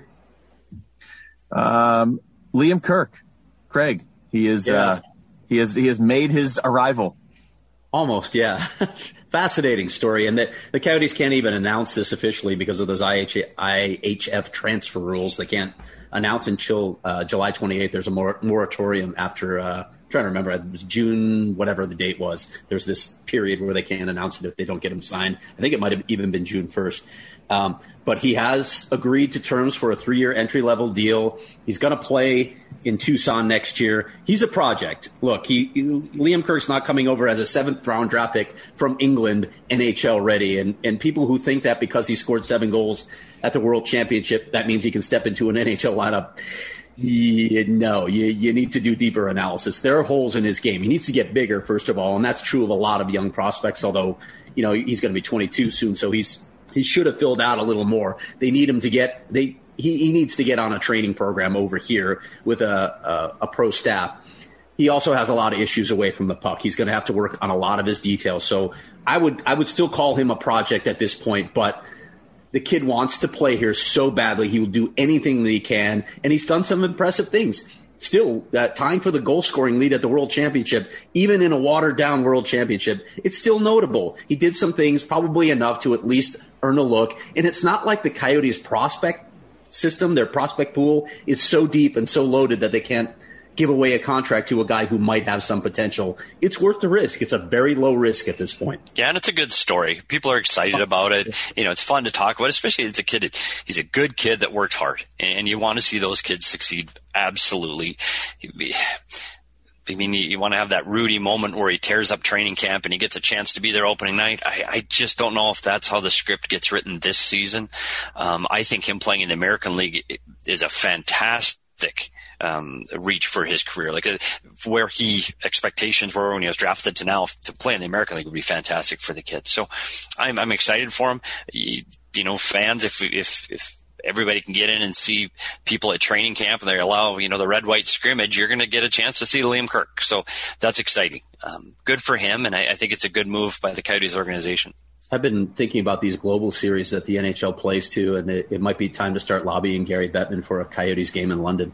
Um, Liam Kirk, Craig, he is, yeah. uh, he has, he has made his arrival. Almost, yeah. Fascinating story. And the, the Coyotes can't even announce this officially because of those I H F transfer rules. They can't announce until uh, July twenty-eighth. There's a mor- moratorium after, uh, I'm trying to remember, it was June, whatever the date was. There's this period where they can't announce it if they don't get him signed. I think it might have even been June first. Um, but he has agreed to terms for a three-year entry-level deal. He's going to play in Tucson next year. He's a project. Look, he, he Liam Kirk's not coming over as a seventh-round draft pick from England, N H L ready. And, and people who think that because he scored seven goals at the World Championship, that means he can step into an N H L lineup. Yeah, no, you, you need to do deeper analysis. There are holes in his game. He needs to get bigger, first of all, and that's true of a lot of young prospects, although, you know, he's going to be twenty-two soon, so he's he should have filled out a little more. They need him to get they he, he needs to get on a training program over here with a, a, a pro staff. He also has a lot of issues away from the puck. He's going to have to work on a lot of his details. So I would I would still call him a project at this point, but the kid wants to play here so badly. He will do anything that he can, and he's done some impressive things. Still, uh, tying for the goal-scoring lead at the World Championship, even in a watered-down World Championship, it's still notable. He did some things, probably enough to at least earn a look. And it's not like the Coyotes' prospect system, their prospect pool, is so deep and so loaded that they can't give away a contract to a guy who might have some potential. It's worth the risk. It's a very low risk at this point. Yeah, and it's a good story. People are excited about it. You know, it's fun to talk about, especially as a kid. He's a good kid that worked hard, and you want to see those kids succeed. Absolutely. I mean, you want to have that Rudy moment where he tears up training camp and he gets a chance to be there opening night. I, I just don't know if that's how the script gets written this season. Um, I think him playing in the American League is a fantastic um, reach for his career. Like uh, where he expectations were when he was drafted to now to play in the American League would be fantastic for the kid. So I'm, I'm excited for him. You, you know, fans, if, if, if, everybody can get in and see people at training camp and they allow, you know, the red-white scrimmage, you're going to get a chance to see Liam Kirk. So that's exciting. Um, good for him, and I, I think it's a good move by the Coyotes organization. I've been thinking about these global series that the N H L plays too, and it, it might be time to start lobbying Gary Bettman for a Coyotes game in London.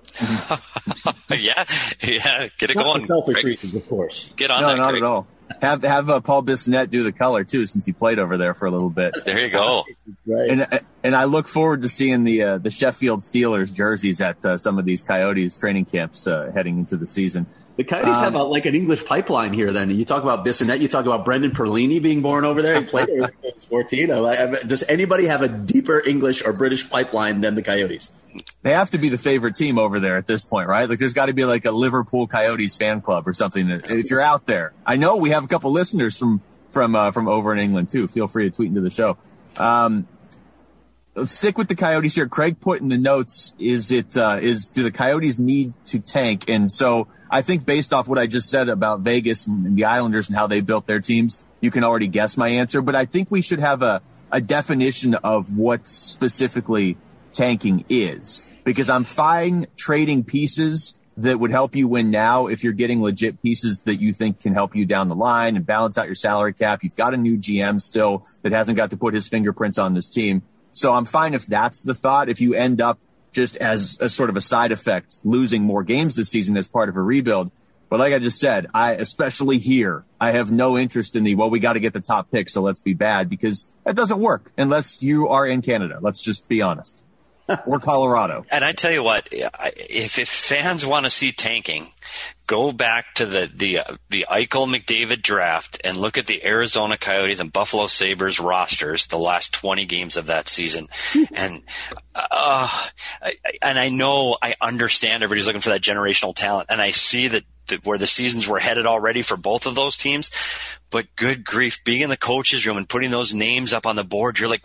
yeah, yeah, get it Not going. For selfish reasons, of course. Get on no, that, not Craig. at all. Have have uh, Paul Bissonnette do the color too, since he played over there for a little bit. There you go. Right. And and I look forward to seeing the uh, the Sheffield Steelers jerseys at uh, some of these Coyotes training camps uh, heading into the season. The Coyotes um, have a, like an English pipeline here. Then you talk about Bissonnette, you talk about Brendan Perlini being born over there. He played there when he was fourteen. Does anybody have a deeper English or British pipeline than the Coyotes? They have to be the favorite team over there at this point, right? Like there's got to be like a Liverpool Coyotes fan club or something. That, if you're out there, I know we have a couple listeners from from uh, from over in England too. Feel free to tweet into the show. Um, let's stick with the Coyotes here. Craig put in the notes: is it uh, is do the Coyotes need to tank? And so I think based off what I just said about Vegas and, and the Islanders and how they built their teams, you can already guess my answer. But I think we should have a a definition of what specifically tanking is, because I'm fine trading pieces that would help you win now if you're getting legit pieces that you think can help you down the line and balance out your salary cap. You've got a new G M still that hasn't got to put his fingerprints on this team. So I'm fine if that's the thought. If you end up just as a sort of a side effect losing more games this season as part of a rebuild. But like I just said, I, especially here, I have no interest in the, well, we got to get the top pick, so let's be bad, because that doesn't work unless you are in Canada. Let's just be honest. Or Colorado. And I tell you what, if, if fans want to see tanking, go back to the the uh, the Eichel McDavid draft and look at the Arizona Coyotes and Buffalo Sabres rosters the last twenty games of that season. and uh, I, and I know I understand everybody's looking for that generational talent, and I see that the, where the seasons were headed already for both of those teams. But good grief, being in the coach's room and putting those names up on the board, you're like,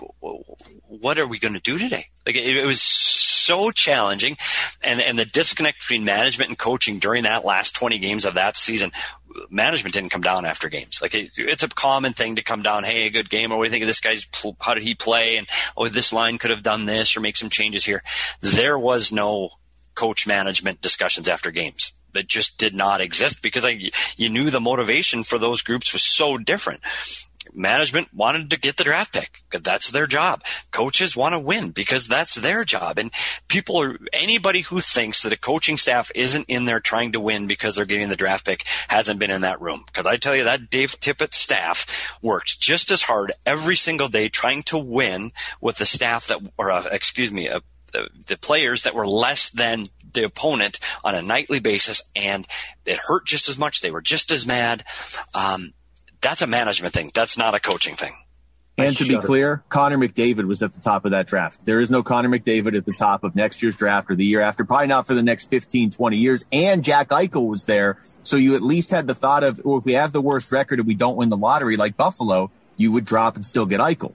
what are we going to do today? Like it, it was so challenging. And, and the disconnect between management and coaching during that last twenty games of that season, management didn't come down after games. Like it, it's a common thing to come down. Hey, a good game. Or what do you think of this guy's, how did he play? And oh, this line could have done this or make some changes here. There was no coach management discussions after games. That just did not exist because I, you knew the motivation for those groups was so different. Management wanted to get the draft pick because that's their job. Coaches want to win because that's their job. And people are, anybody who thinks that a coaching staff isn't in there trying to win because they're getting the draft pick hasn't been in that room. Because I tell you, that Dave Tippett staff worked just as hard every single day trying to win with the staff that, or uh, excuse me, uh, the, the players that were less than the opponent on a nightly basis, and it hurt just as much. They were just as mad. Um, that's a management thing. That's not a coaching thing. And to be clear, Connor McDavid was at the top of that draft. There is no Connor McDavid at the top of next year's draft or the year after, probably not for the next fifteen, twenty years. And Jack Eichel was there. So you at least had the thought of, well, if we have the worst record and we don't win the lottery like Buffalo, you would drop and still get Eichel.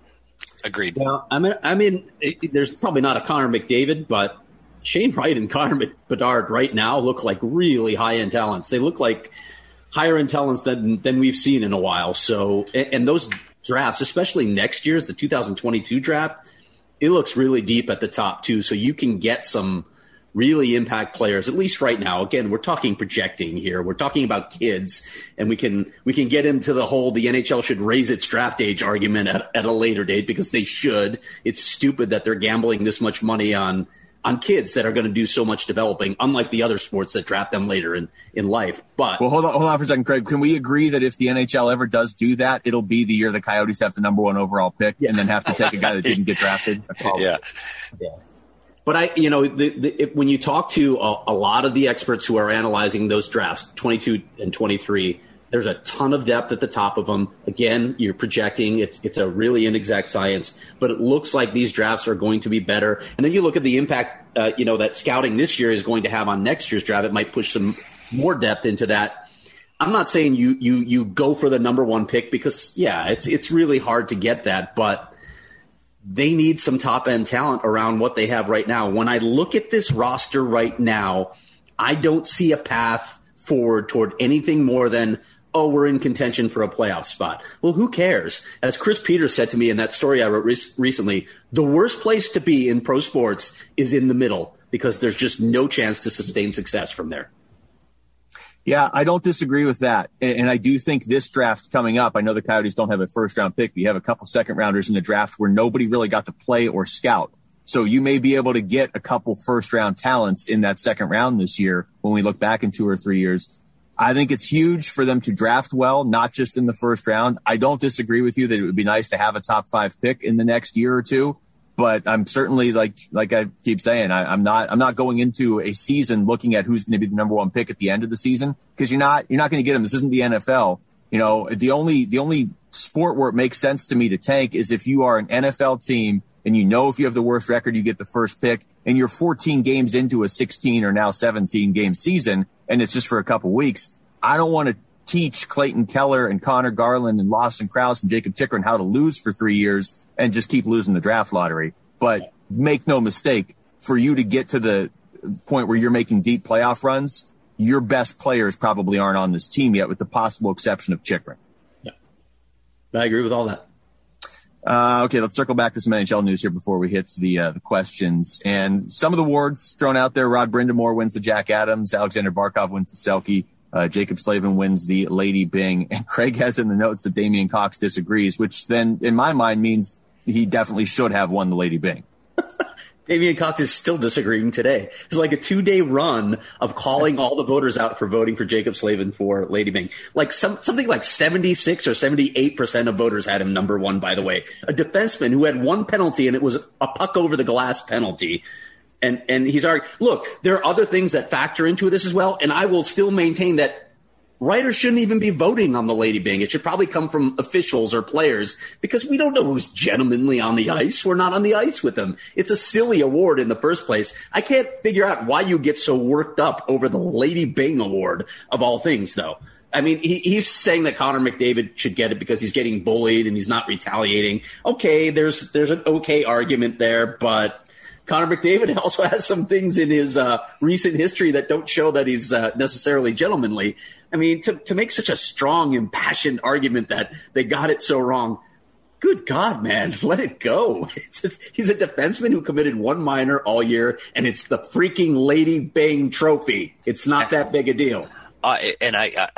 Agreed. Well, I mean, I mean, it, there's probably not a Connor McDavid, but Shane Wright and Connor Bedard right now look like really high-end talents. They look like higher-end talents than than we've seen in a while. So, and, and those drafts, especially next year's, the two thousand twenty-two draft, it looks really deep at the top too. So you can get some really impact players, at least right now. Again, we're talking projecting here. We're talking about kids, and we can we can get into the whole the N H L should raise its draft age argument at, at a later date because they should. It's stupid that they're gambling this much money on on kids that are going to do so much developing, unlike the other sports that draft them later in, in life. But well, hold on, hold on for a second, Craig. Can we agree that if the N H L ever does do that, it'll be the year the Coyotes have the number one overall pick yeah. and then have to take a guy that didn't get drafted? Yeah. Yeah. But I, you know, the, the, if, when you talk to a, a lot of the experts who are analyzing those drafts, twenty-two and twenty-three, there's a ton of depth at the top of them. Again, you're projecting. It's it's a really inexact science, but it looks like these drafts are going to be better. And then you look at the impact, uh, you know, that scouting this year is going to have on next year's draft. It might push some more depth into that. I'm not saying you you you go for the number one pick because, yeah, it's it's really hard to get that, but they need some top-end talent around what they have right now. When I look at this roster right now, I don't see a path forward toward anything more than, oh, we're in contention for a playoff spot. Well, who cares? As Chris Peters said to me in that story I wrote re- recently, the worst place to be in pro sports is in the middle because there's just no chance to sustain success from there. Yeah, I don't disagree with that. And I do think this draft coming up, I know the Coyotes don't have a first round pick, but you have a couple second rounders in the draft where nobody really got to play or scout. So you may be able to get a couple first round talents in that second round this year when we look back in two or three years. I think it's huge for them to draft well, not just in the first round. I don't disagree with you that it would be nice to have a top five pick in the next year or two. But I'm certainly, like like I keep saying, I, I'm not I'm not going into a season looking at who's going to be the number one pick at the end of the season because you're not you're not going to get them. This isn't the N F L. You know, the only the only sport where it makes sense to me to tank is if you are an N F L team and you know if you have the worst record, you get the first pick, and you're fourteen games into a sixteen or now seventeen game season, and it's just for a couple weeks. I don't want to teach Clayton Keller and Connor Garland and Lawson Krause and Jacob Chychrun how to lose for three years and just keep losing the draft lottery. But make no mistake, for you to get to the point where you're making deep playoff runs, your best players probably aren't on this team yet, with the possible exception of Chychrun. Yeah, I agree with all that. Uh, okay, let's circle back to some N H L news here before we hit the, uh, the questions. And some of the awards thrown out there, Rod Brindamore wins the Jack Adams, Alexander Barkov wins the Selke. Uh, Jacob Slavin wins the Lady Byng, and Craig has in the notes that Damian Cox disagrees, which then, in my mind, means he definitely should have won the Lady Byng. Damian Cox is still disagreeing today. It's like a two-day run of calling all the voters out for voting for Jacob Slavin for Lady Byng. Like some, something like seventy-six or seventy-eight percent of voters had him number one, by the way. A defenseman who had one penalty, and it was a puck over the glass penalty. And and he's arguing, look, there are other things that factor into this as well, and I will still maintain that writers shouldn't even be voting on the Lady Byng. It should probably come from officials or players because we don't know who's gentlemanly on the ice. We're not on the ice with them. It's a silly award in the first place. I can't figure out why you get so worked up over the Lady Byng award of all things, though. I mean, he, he's saying that Connor McDavid should get it because he's getting bullied and he's not retaliating. Okay, there's there's an okay argument there, but Connor McDavid also has some things in his uh, recent history that don't show that he's uh, necessarily gentlemanly. I mean, to, to make such a strong, impassioned argument that they got it so wrong, good God, man, let it go. It's, it's, he's a defenseman who committed one minor all year, and it's the freaking Lady Byng trophy. It's not that big a deal. Uh, and I, uh,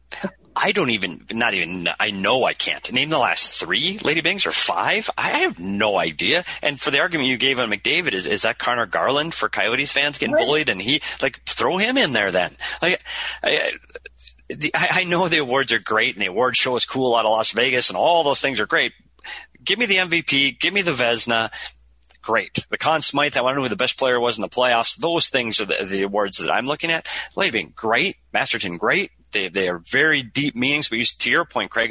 I don't even, not even, I know I can't name the last three Lady Byngs or five. I have no idea. And for the argument you gave on McDavid, is, is that Connor Garland for Coyotes fans getting right. bullied? And he, like, throw him in there then. Like, I, I, I know the awards are great and the award show is cool out of Las Vegas and all those things are great. Give me the M V P. Give me the Vezina. Great. The Conn Smythe, I want to know who the best player was in the playoffs. Those things are the, the awards that I'm looking at. Lady Byng, great. Masterton, great. They they are very deep meanings. But to your point, Craig,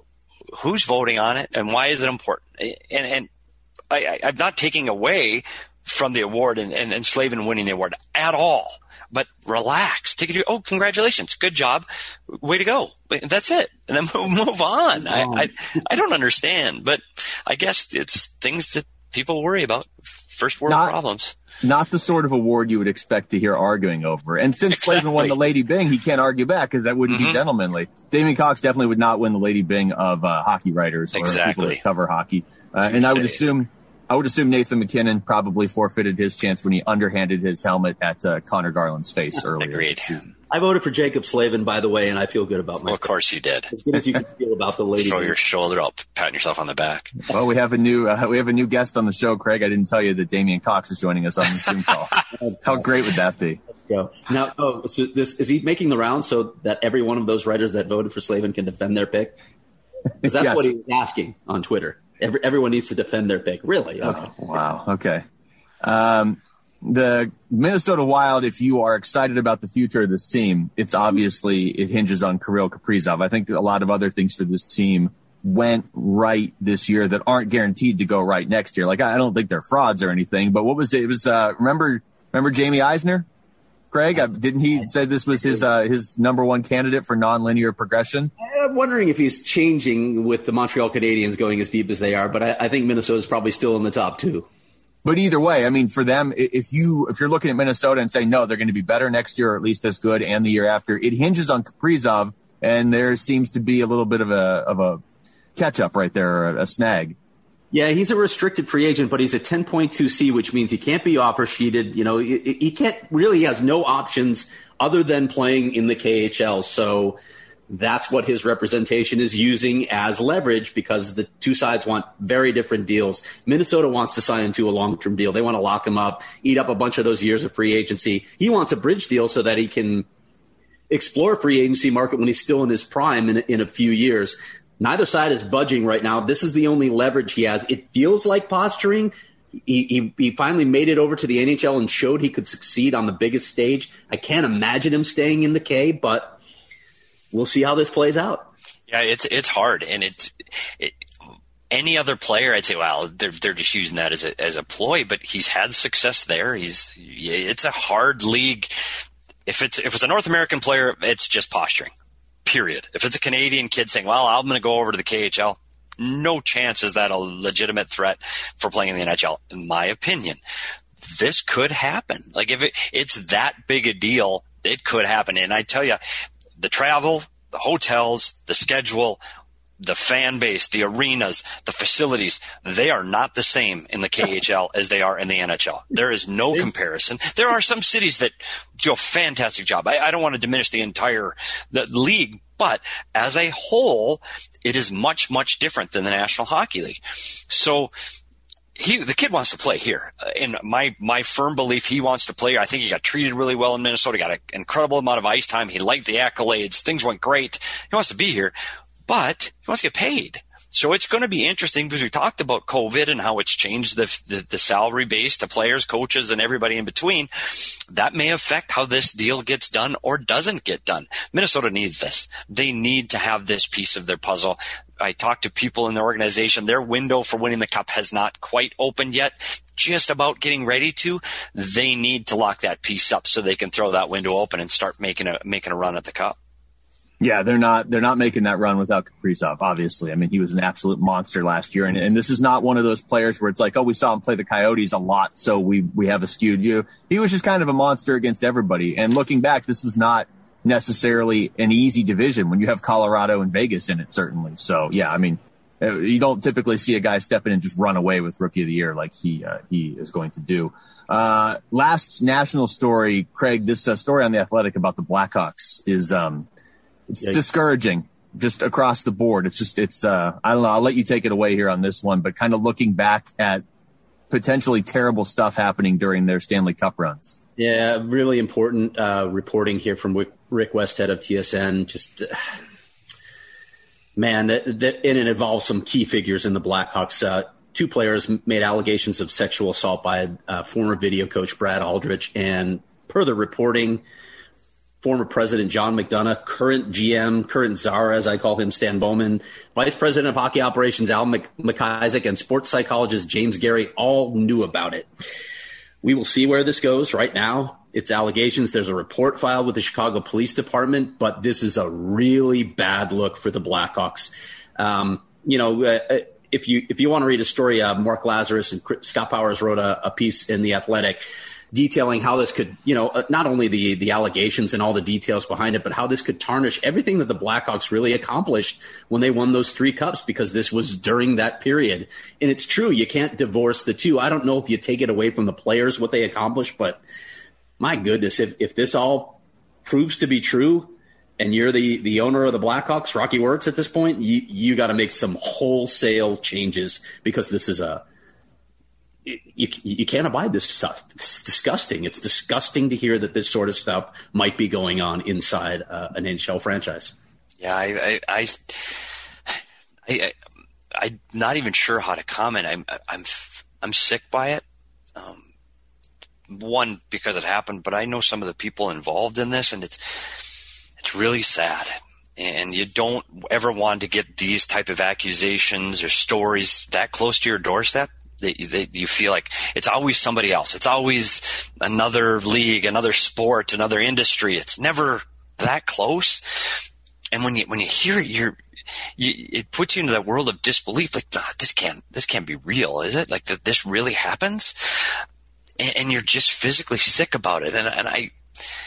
who's voting on it and why is it important? And and I, I, I'm not taking away from the award and, and, and Slavin winning the award at all. But relax. Take it. Oh, congratulations. Good job. Way to go. But that's it. And then move, move on. I, I I don't understand. But I guess it's things that people worry about. First world not, problems. Not the sort of award you would expect to hear arguing over. And since exactly. Slavin won the Lady Byng, he can't argue back because that wouldn't mm-hmm. be gentlemanly. Damian Cox definitely would not win the Lady Byng of uh, hockey writers or exactly. people that cover hockey. Uh, and I would assume I would assume Nathan McKinnon probably forfeited his chance when he underhanded his helmet at uh, Connor Garland's face earlier. Agreed. I voted for Jacob Slavin, by the way, and I feel good about myself. Well, of course you did. As good as you can feel about the Lady Throw Byng. your shoulder up, patting yourself on the back. Well, we have a new uh, we have a new guest on the show, Craig. I didn't tell you that Damian Cox is joining us on the Zoom call. How great would that be? Let's go. Now, oh, so this is he making the round so that every one of those writers that voted for Slavin can defend their pick? Because that's yes. what he was asking on Twitter. Every, everyone needs to defend their pick. Really? Okay. Oh, wow. Okay. Um, the Minnesota Wild, if you are excited about the future of this team, it's obviously it hinges on Kirill Kaprizov. I think a lot of other things for this team went right this year that aren't guaranteed to go right next year. Like, I don't think they're frauds or anything, but what was it? It was, uh, remember, remember Jamie Eisner? Craig, uh, didn't he say this was his, uh, his number one candidate for nonlinear progression? I'm wondering if he's changing with the Montreal Canadiens going as deep as they are, but I, I think Minnesota's probably still in the top two. But either way, I mean, for them, if you if you're looking at Minnesota and saying no, they're going to be better next year or at least as good, and the year after, it hinges on Kaprizov, and there seems to be a little bit of a of a catch up right there, or a snag. Yeah, he's a restricted free agent, but he's a ten point two C, which means he can't be offer sheeted. You know, he, he can't really he has no options other than playing in the K H L. So that's what his representation is using as leverage because the two sides want very different deals. Minnesota wants to sign him to a long-term deal. They want to lock him up, eat up a bunch of those years of free agency. He wants a bridge deal so that he can explore free agency market when he's still in his prime in, in a few years. Neither side is budging right now. This is the only leverage he has. It feels like posturing. He, he, he finally made it over to the N H L and showed he could succeed on the biggest stage. I can't imagine him staying in the K, but we'll see how this plays out. Yeah, it's it's hard, and it's it, any other player, I'd say, well, they're they're just using that as a as a ploy. But he's had success there. He's it's a hard league. If it's if it's a North American player, it's just posturing. Period. If it's a Canadian kid saying, "Well, I'm going to go over to the K H L," no chance is that a legitimate threat for playing in the N H L. In my opinion, this could happen. Like if it, it's that big a deal, it could happen. And I tell you. The travel, the hotels, the schedule, the fan base, the arenas, the facilities, they are not the same in the K H L as they are in the N H L. There is no comparison. There are some cities that do a fantastic job. I, I don't want to diminish the entire the league, but as a whole, it is much, much different than the National Hockey League. So He, the kid wants to play here. Uh, in my, my firm belief, he wants to play here. I think he got treated really well in Minnesota, got an incredible amount of ice time. He liked the accolades. Things went great. He wants to be here, but he wants to get paid. So it's going to be interesting because we talked about COVID and how it's changed the, the, the salary base to players, coaches, and everybody in between. That may affect how this deal gets done or doesn't get done. Minnesota needs this. They need to have this piece of their puzzle. I talked to people in the organization. Their window for winning the cup has not quite opened yet. Just about getting ready to. They need to lock that piece up so they can throw that window open and start making a making a run at the cup. Yeah, they're not they're not making that run without Kaprizov, obviously. I mean, he was an absolute monster last year. And, and this is not one of those players where it's like, oh, we saw him play the Coyotes a lot, so we, we have a skewed view. He was just kind of a monster against everybody. And looking back, this was not necessarily an easy division when you have Colorado and Vegas in it, certainly. So, yeah, I mean, you don't typically see a guy step in and just run away with Rookie of the Year like he uh, he is going to do. Uh, last national story, Craig, this uh, story on The Athletic about the Blackhawks is um, it's Yikes. discouraging just across the board. It's just it's uh, I don't know. I'll let you take it away here on this one, but kind of looking back at potentially terrible stuff happening during their Stanley Cup runs. Yeah, really important uh, reporting here from Rick Westhead of T S N. Just, uh, man, that, that, and it involves some key figures in the Blackhawks. Uh, two players made allegations of sexual assault by uh, former video coach Brad Aldrich. And per the reporting, former President John McDonough, current G M, current czar, as I call him, Stan Bowman, Vice President of Hockey Operations Al McIsaac, and sports psychologist James Gary all knew about it. We will see where this goes. Right now, it's allegations. There's a report filed with the Chicago Police Department, but this is a really bad look for the Blackhawks. Um, you know, uh, if you if you want to read a story, uh, Mark Lazarus and Scott Powers wrote a, a piece in The Athletic detailing how this could, you know, uh, not only the the allegations and all the details behind it, but how this could tarnish everything that the Blackhawks really accomplished when they won those three cups, because this was during that period. And it's true, you can't divorce the two. I don't know if you take it away from the players, what they accomplished, but my goodness, if, if this all proves to be true and you're the, the owner of the Blackhawks, Rocky Works at this point, you, you got to make some wholesale changes, because this is a, You, you can't abide this stuff. It's disgusting. It's disgusting to hear that this sort of stuff might be going on inside uh, an N H L franchise. Yeah, I, I, I, I, I'm not even sure how to comment. I'm, I'm, I'm sick by it. Um, one, because it happened, but I know some of the people involved in this, and it's, it's really sad. And you don't ever want to get these type of accusations or stories that close to your doorstep. They, they, you feel like it's always somebody else. It's always another league, another sport, another industry. It's never that close. And when you when you hear it, you're, you, it puts you into that world of disbelief. Like, ah, this can't this can't be real, is it? Like, that this really happens, and, and you're just physically sick about it. And and I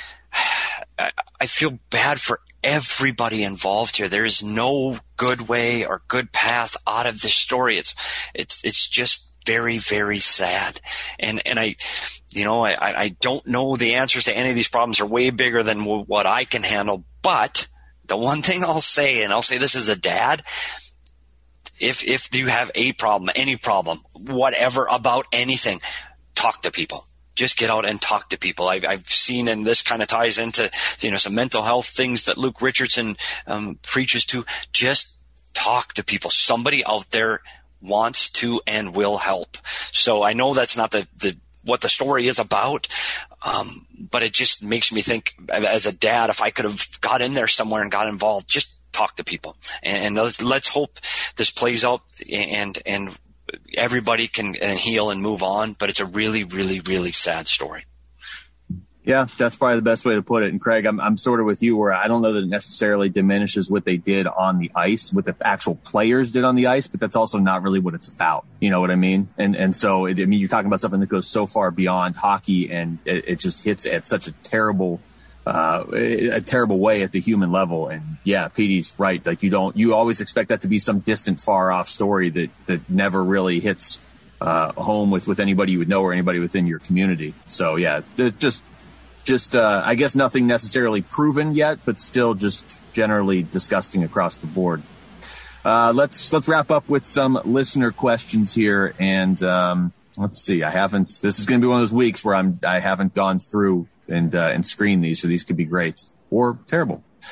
I feel bad for everybody involved here. There is no good way or good path out of this story. It's it's it's just very, very sad. And, and I, you know, I, I don't know the answers to any of these problems are way bigger than w- what I can handle. But the one thing I'll say, and I'll say this as a dad, if, if you have a problem, any problem, whatever about anything, talk to people. Just get out and talk to people. I've, I've seen, and this kind of ties into, you know, some mental health things that Luke Richardson um, preaches to. Just talk to people. Somebody out there wants to and will help. So I know that's not the, the what the story is about, um, but it just makes me think, as a dad, if I could have got in there somewhere and got involved, just talk to people. And, and let's, let's hope this plays out and and everybody can and heal and move on. But it's a really, really, really sad story. Yeah, that's probably the best way to put it. And Craig, I'm I'm sort of with you, where I don't know that it necessarily diminishes what they did on the ice, what the actual players did on the ice, but that's also not really what it's about. You know what I mean? And and so, it, I mean, you're talking about something that goes so far beyond hockey, and it, it just hits at such a terrible, uh, a terrible way at the human level. And yeah, Petey's right. Like, you don't, you always expect that to be some distant, far off story that that never really hits uh, home with with anybody you would know or anybody within your community. So yeah, it just. Just, uh, I guess nothing necessarily proven yet, but still just generally disgusting across the board. Uh, let's let's wrap up with some listener questions here, and um, let's see. I haven't. This is going to be one of those weeks where I'm I haven't gone through and uh, and screened these, so these could be great or terrible.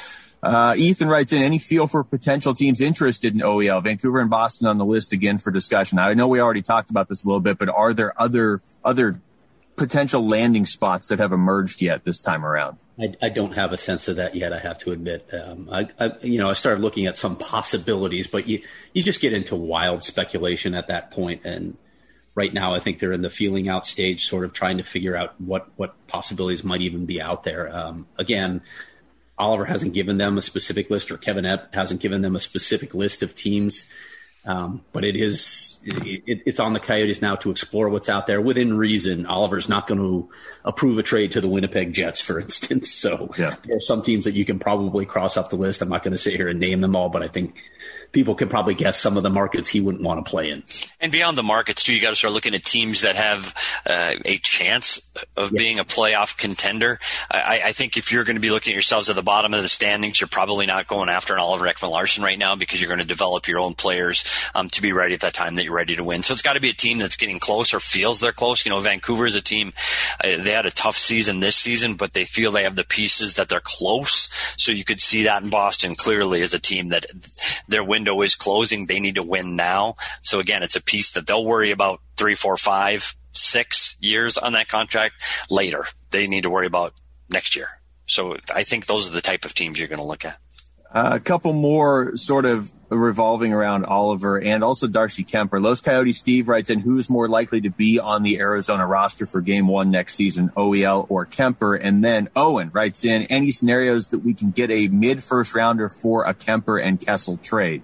Uh, Ethan writes in, any feel for potential teams interested in O E L? Vancouver and Boston on the list again for discussion. I know we already talked about this a little bit, but are there other other potential landing spots that have emerged yet this time around? I, I don't have a sense of that yet, I have to admit. Um, I, I, you know, I started looking at some possibilities, but you, you just get into wild speculation at that point. And right now, I think they're in the feeling out stage, sort of trying to figure out what, what possibilities might even be out there. Um, again, Oliver hasn't given them a specific list, or Kevin Epp hasn't given them a specific list of teams. Um, but it is, it, it's on the Coyotes now to explore what's out there within reason. Oliver's not going to approve a trade to the Winnipeg Jets, for instance. So yeah. There are some teams that you can probably cross off the list. I'm not going to sit here and name them all, but I think people can probably guess some of the markets he wouldn't want to play in. And beyond the markets too, you got to start looking at teams that have uh, a chance of yeah. being a playoff contender. I, I think if you're going to be looking at yourselves at the bottom of the standings, you're probably not going after an Oliver Ekman-Larsson right now, because you're going to develop your own players Um, to be ready at that time that you're ready to win. So it's got to be a team that's getting close or feels they're close. You know, Vancouver is a team, uh, they had a tough season this season, but they feel they have the pieces that they're close. So you could see that in Boston clearly as a team that their window is closing. They need to win now. So again, it's a piece that they'll worry about three, four, five, six years on that contract later. They need to worry about next year. So I think those are the type of teams you're going to look at. Uh, a couple more sort of revolving around Oliver and also Darcy Kuemper. Los Coyotes Steve writes in, who's more likely to be on the Arizona roster for game one next season, O E L or Kuemper? And then Owen writes in, any scenarios that we can get a mid-first rounder for a Kuemper and Kessel trade?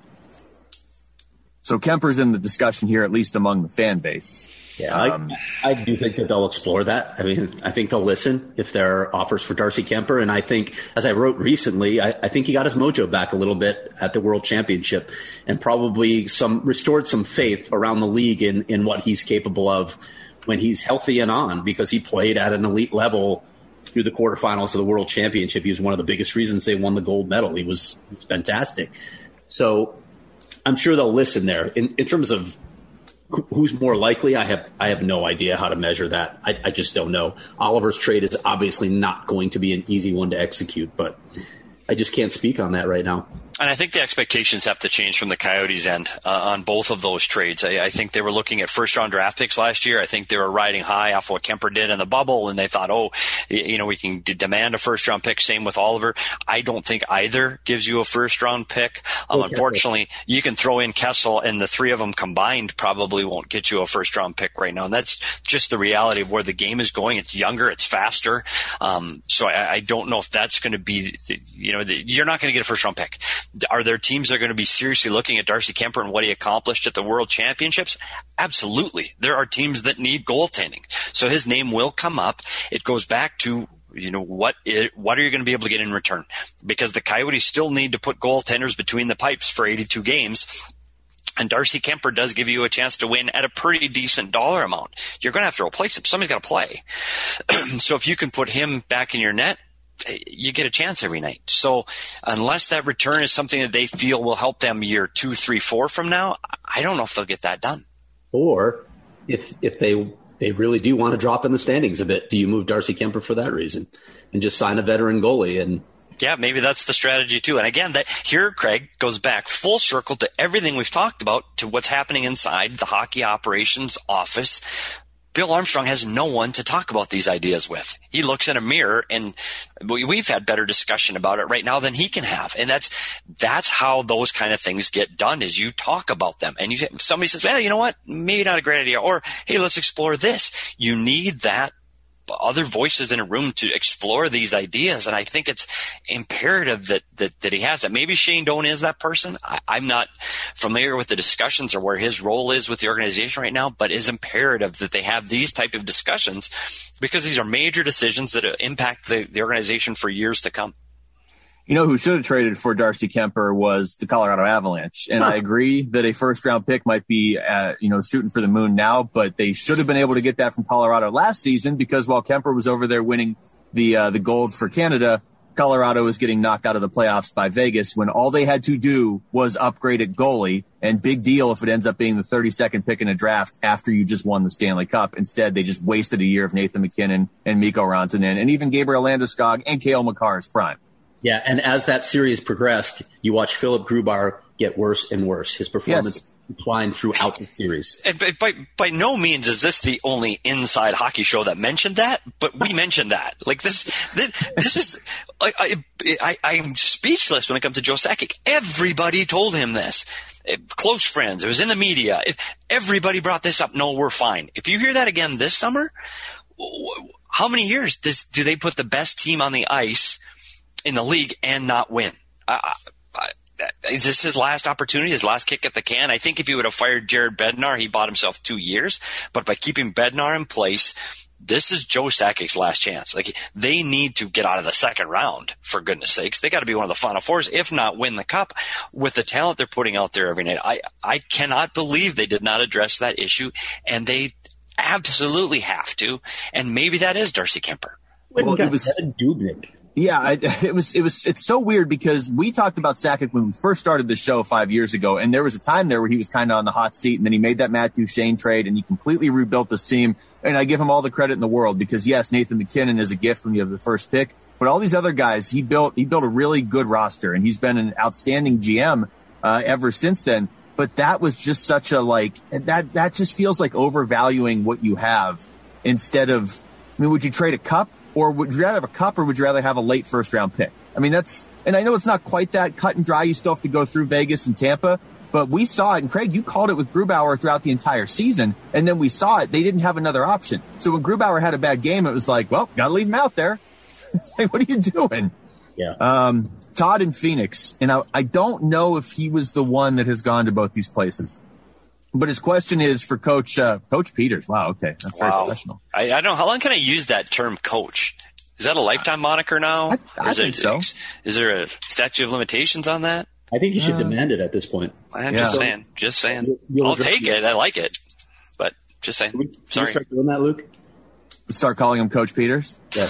So Kemper's in the discussion here, at least among the fan base. Yeah, um, I, I do think that they'll explore that. I mean, I think they'll listen if there are offers for Darcy Kuemper. And I think, as I wrote recently, I, I think he got his mojo back a little bit at the World Championship, and probably some restored some faith around the league in, in what he's capable of when he's healthy and on, because he played at an elite level through the quarterfinals of the World Championship. He was one of the biggest reasons they won the gold medal. He was, he was fantastic. So I'm sure they'll listen there. In, in terms of who's more likely, I have I have no idea how to measure that. I, I just don't know. Oliver's trade is obviously not going to be an easy one to execute, but I just can't speak on that right now. And I think the expectations have to change from the Coyotes' end uh, on both of those trades. I, I think they were looking at first-round draft picks last year. I think they were riding high off what Kuemper did in the bubble, and they thought, oh, you know, we can d- demand a first-round pick. Same with Oliver. I don't think either gives you a first-round pick. Um, okay. Unfortunately, you can throw in Kessel, and the three of them combined probably won't get you a first-round pick right now. And that's just the reality of where the game is going. It's younger, it's faster. Um, so I, I don't know if that's going to be, you know, the, you're not going to get a first-round pick. Are there teams that are going to be seriously looking at Darcy Kuemper and what he accomplished at the World Championships? Absolutely. There are teams that need goaltending. So his name will come up. It goes back to, you know, what it, what are you going to be able to get in return? Because the Coyotes still need to put goaltenders between the pipes for eighty-two games. And Darcy Kuemper does give you a chance to win at a pretty decent dollar amount. You're going to have to replace him. Somebody's got to play. So if you can put him back in your net, you get a chance every night. So unless that return is something that they feel will help them year two, three, four from now, I don't know if they'll get that done. Or if if they they really do want to drop in the standings a bit, do you move Darcy Kuemper for that reason and just sign a veteran goalie? And yeah, maybe that's the strategy too. And again, that here, Craig, goes back full circle to everything we've talked about, to what's happening inside the hockey operations office. Bill Armstrong has no one to talk about these ideas with. He looks in a mirror, and we've had better discussion about it right now than he can have. And that's that's how those kind of things get done, is you talk about them. And you somebody says, well, you know what, maybe not a great idea. Or, hey, let's explore this. You need that other voices in a room to explore these ideas. And I think it's imperative that, that, that he has that. Maybe Shane Doan is that person. I, I'm not familiar with the discussions or where his role is with the organization right now, but it's imperative that they have these type of discussions, because these are major decisions that impact the, the organization for years to come. You know who should have traded for Darcy Kuemper was the Colorado Avalanche. And huh. I agree that a first-round pick might be, uh, you know, shooting for the moon now, but they should have been able to get that from Colorado last season, because while Kuemper was over there winning the uh, the gold for Canada, Colorado was getting knocked out of the playoffs by Vegas when all they had to do was upgrade at goalie. And big deal if it ends up being the thirty-second pick in a draft after you just won the Stanley Cup. Instead, they just wasted a year of Nathan MacKinnon and Mikko Rantanen and even Gabriel Landeskog and Cale Makar's prime. Yeah, and as that series progressed, you watch Philipp Grubauer get worse and worse. His performance yes. declined throughout the series. And by, by, by no means is this the only Inside Hockey show that mentioned that, but we mentioned that. Like this, this, this is, I, I, I, I'm speechless when it comes to Joe Sakic. Everybody told him this. Close friends. It was in the media. Everybody brought this up. No, we're fine. If you hear that again this summer, how many years does, do they put the best team on the ice in the league and not win? I, I, Is this his last opportunity, his last kick at the can? I think if he would have fired Jared Bednar, he bought himself two years. But by keeping Bednar in place, this is Joe Sakic's last chance. Like, they need to get out of the second round, for goodness sakes. They got to be one of the Final Fours, if not win the Cup, with the talent they're putting out there every night. I, I cannot believe they did not address that issue, and they absolutely have to. And maybe that is Darcy Kemper. Well, it was Dubnyk. Yeah, I, it was, it was, it's so weird because we talked about Sakic when we first started the show five years ago, and there was a time there where he was kind of on the hot seat, and then he made that Matt Duchene trade, and he completely rebuilt this team, and I give him all the credit in the world because, yes, Nathan McKinnon is a gift when you have the first pick, but all these other guys, he built, he built a really good roster, and he's been an outstanding G M uh, ever since then, but that was just such a, like, that, that just feels like overvaluing what you have instead of, I mean, would you trade a cup? Or would you rather have a cup, or would you rather have a late first-round pick? I mean, that's – and I know it's not quite that cut and dry. You still have to go through Vegas and Tampa. But we saw it, and Craig, you called it with Grubauer throughout the entire season, and then we saw it. They didn't have another option. So when Grubauer had a bad game, it was like, well, got to leave him out there. It's like, what are you doing? Yeah. Um, Todd in Phoenix, and I, I don't know if he was the one that has gone to both these places. But his question is for Coach uh, Coach Peters. Wow, okay. That's very wow. professional. I, I don't know. How long can I use that term coach? Is that a lifetime moniker now? I, I think so. Is there a statute of limitations on that? I think you should uh, demand it at this point. I'm yeah. just saying. Just saying. You'll I'll take it. I like it. But just saying. Can we, can Sorry. you start doing that, Luke? Start calling him Coach Peters? Yeah.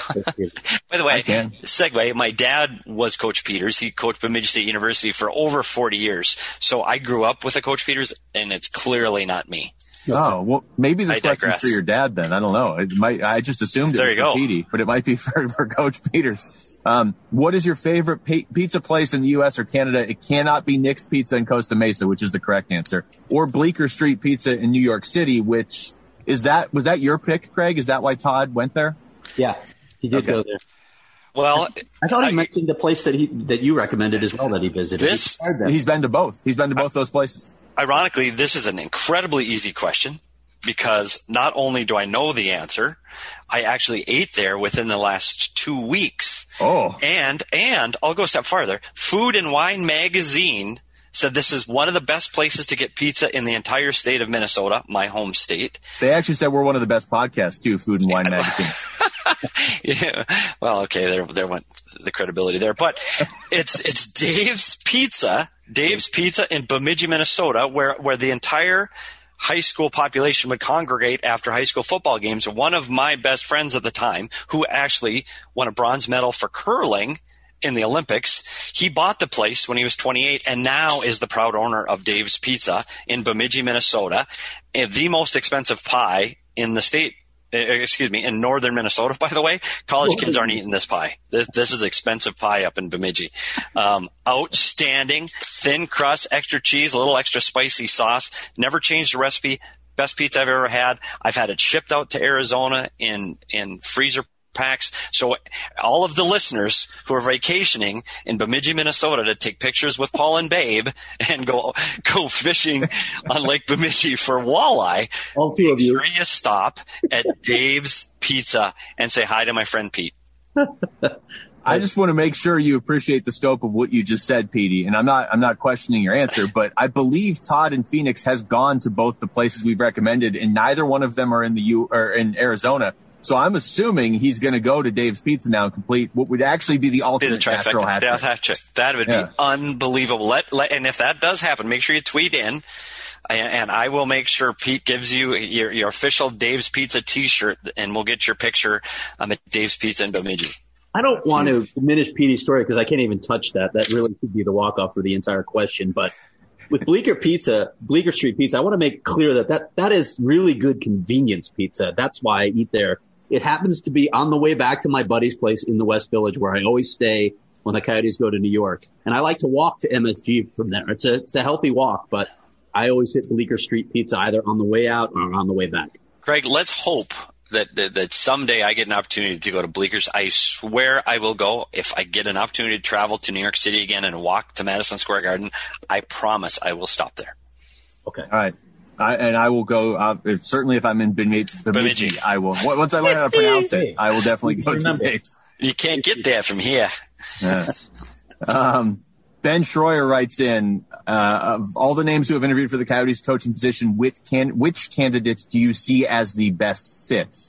By the way, segue, my dad was Coach Peters. He coached Bemidji State University for over forty years. So I grew up with a Coach Peters, and it's clearly not me. Oh, well, maybe this I question's digress. for your dad then. I don't know. It might. I just assumed it there was you for go. Petey, but it might be for, for Coach Peters. Um, what is your favorite p- pizza place in the U S or Canada? It cannot be Nick's Pizza in Costa Mesa, which is the correct answer, or Bleecker Street Pizza in New York City, which is that, was that your pick, Craig? Is that why Todd went there? Yeah, he did okay. go there. Well, I thought he I, mentioned the place that he that you recommended as well that he visited. This, he he's been to both. He's been to both those places. Ironically, this is an incredibly easy question because not only do I know the answer, I actually ate there within the last two weeks. Oh. And, and I'll go a step farther. Food and Wine Magazine said this is one of the best places to get pizza in the entire state of Minnesota, my home state. They actually said we're one of the best podcasts too, Food and Wine yeah. Magazine. Yeah. Well, okay, there, there went the credibility there, but it's, it's Dave's Pizza, Dave's Pizza in Bemidji, Minnesota, where, where the entire high school population would congregate after high school football games. One of my best friends at the time, who actually won a bronze medal for curling in the Olympics, he bought the place when he was twenty-eight and now is the proud owner of Dave's Pizza in Bemidji, Minnesota, and the most expensive pie in the state. Excuse me, in northern Minnesota, by the way. College kids aren't eating this pie. This, this is expensive pie up in Bemidji. Um, outstanding, thin crust, extra cheese, a little extra spicy sauce. Never changed the recipe. Best pizza I've ever had. I've had it shipped out to Arizona in, in freezer packs. So all of the listeners who are vacationing in Bemidji, Minnesota to take pictures with Paul and Babe and go go fishing on Lake Bemidji for walleye, all two of you, make sure you stop at Dave's Pizza and say hi to my friend Pete. I just want to make sure you appreciate the scope of what you just said, Petey. And I'm not, I'm not questioning your answer, but I believe Todd in Phoenix has gone to both the places we've recommended, and neither one of them are in the U or in Arizona. So I'm assuming he's going to go to Dave's Pizza now and complete what would actually be the ultimate the natural hat trick. Hat trick. That would yeah. be unbelievable. Let, let, and if that does happen, make sure you tweet in, and, and I will make sure Pete gives you your, your official Dave's Pizza T-shirt, and we'll get your picture um, at Dave's Pizza in Bemidji. I don't want to diminish Petey's story because I can't even touch that. That really could be the walk-off for the entire question. But with Bleecker Pizza, Bleecker Street Pizza, I want to make clear that, that that is really good convenience pizza. That's why I eat there. It happens to be on the way back to my buddy's place in the West Village where I always stay when the Coyotes go to New York. And I like to walk to M S G from there. It's a, it's a healthy walk, but I always hit Bleecker Street Pizza either on the way out or on the way back. Greg, let's hope that, that that someday I get an opportunity to go to Bleeckers. I swear I will go. If I get an opportunity to travel to New York City again and walk to Madison Square Garden, I promise I will stop there. Okay. All right. I, and I will go, uh, if, certainly if I'm in Bemidji, Bemidji, I will. Once I learn how to pronounce it, I will definitely go to Dave's. You can't get there from here. Yeah. Um, Ben Schroyer writes in, uh, of all the names who have interviewed for the Coyotes coaching position, which can, which candidates do you see as the best fit?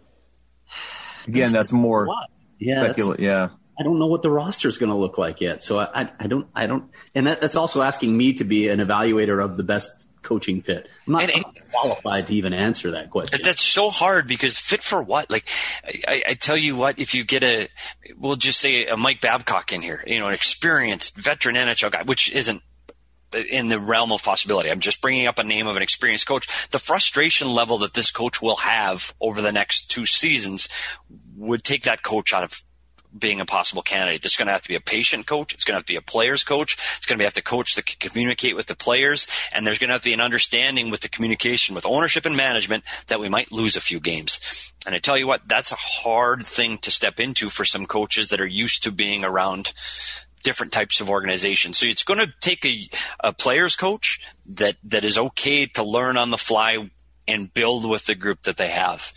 Again, that's more yeah, speculative. Yeah. I don't know what the roster is going to look like yet. So I, I, I don't, I don't, and that, that's also asking me to be an evaluator of the best coaching fit. I'm not, and, and, I'm not qualified to even answer that question. That's so hard because fit for what? Like, I, I tell you what, if you get a, we'll just say a Mike Babcock in here, you know, an experienced veteran N H L guy, which isn't in the realm of possibility. I'm just bringing up a name of an experienced coach. The frustration level that this coach will have over the next two seasons would take that coach out of being a possible candidate. It's going to have to be a patient coach. It's going to have to be a player's coach. It's going to have to coach that can communicate with the players. And there's going to have to be an understanding with the communication with ownership and management that we might lose a few games. And I tell you what, that's a hard thing to step into for some coaches that are used to being around different types of organizations. So it's going to take a, a player's coach that, that is okay to learn on the fly and build with the group that they have.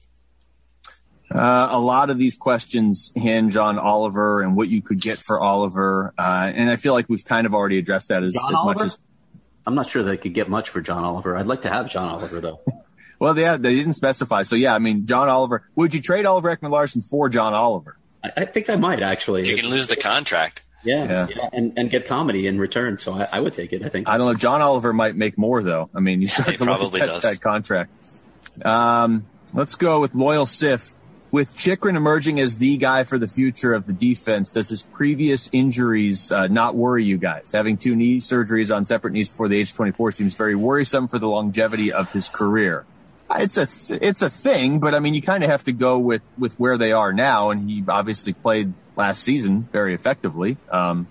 Uh, a lot of these questions hinge on Oliver and what you could get for Oliver. Uh, and I feel like we've kind of already addressed that as, as much as. I'm not sure they could get much for John Oliver. I'd like to have John Oliver, though. Well, yeah, they didn't specify. So, yeah, I mean, John Oliver. Would you trade Oliver Ekman-Larsson for John Oliver? I, I think I might, actually. If you can lose the contract. Yeah, yeah. yeah and, and get comedy in return. So I, I would take it, I think. I don't know. John Oliver might make more, though. I mean, you start he to look at that, that contract. Um, let's go with Loyal Sif. With Chychrun emerging as the guy for the future of the defense, does his previous injuries uh, not worry you guys? Having two knee surgeries on separate knees before the age of twenty-four seems very worrisome for the longevity of his career. It's a th- it's a thing, but I mean, you kind of have to go with, with where they are now, and he obviously played last season very effectively. Um,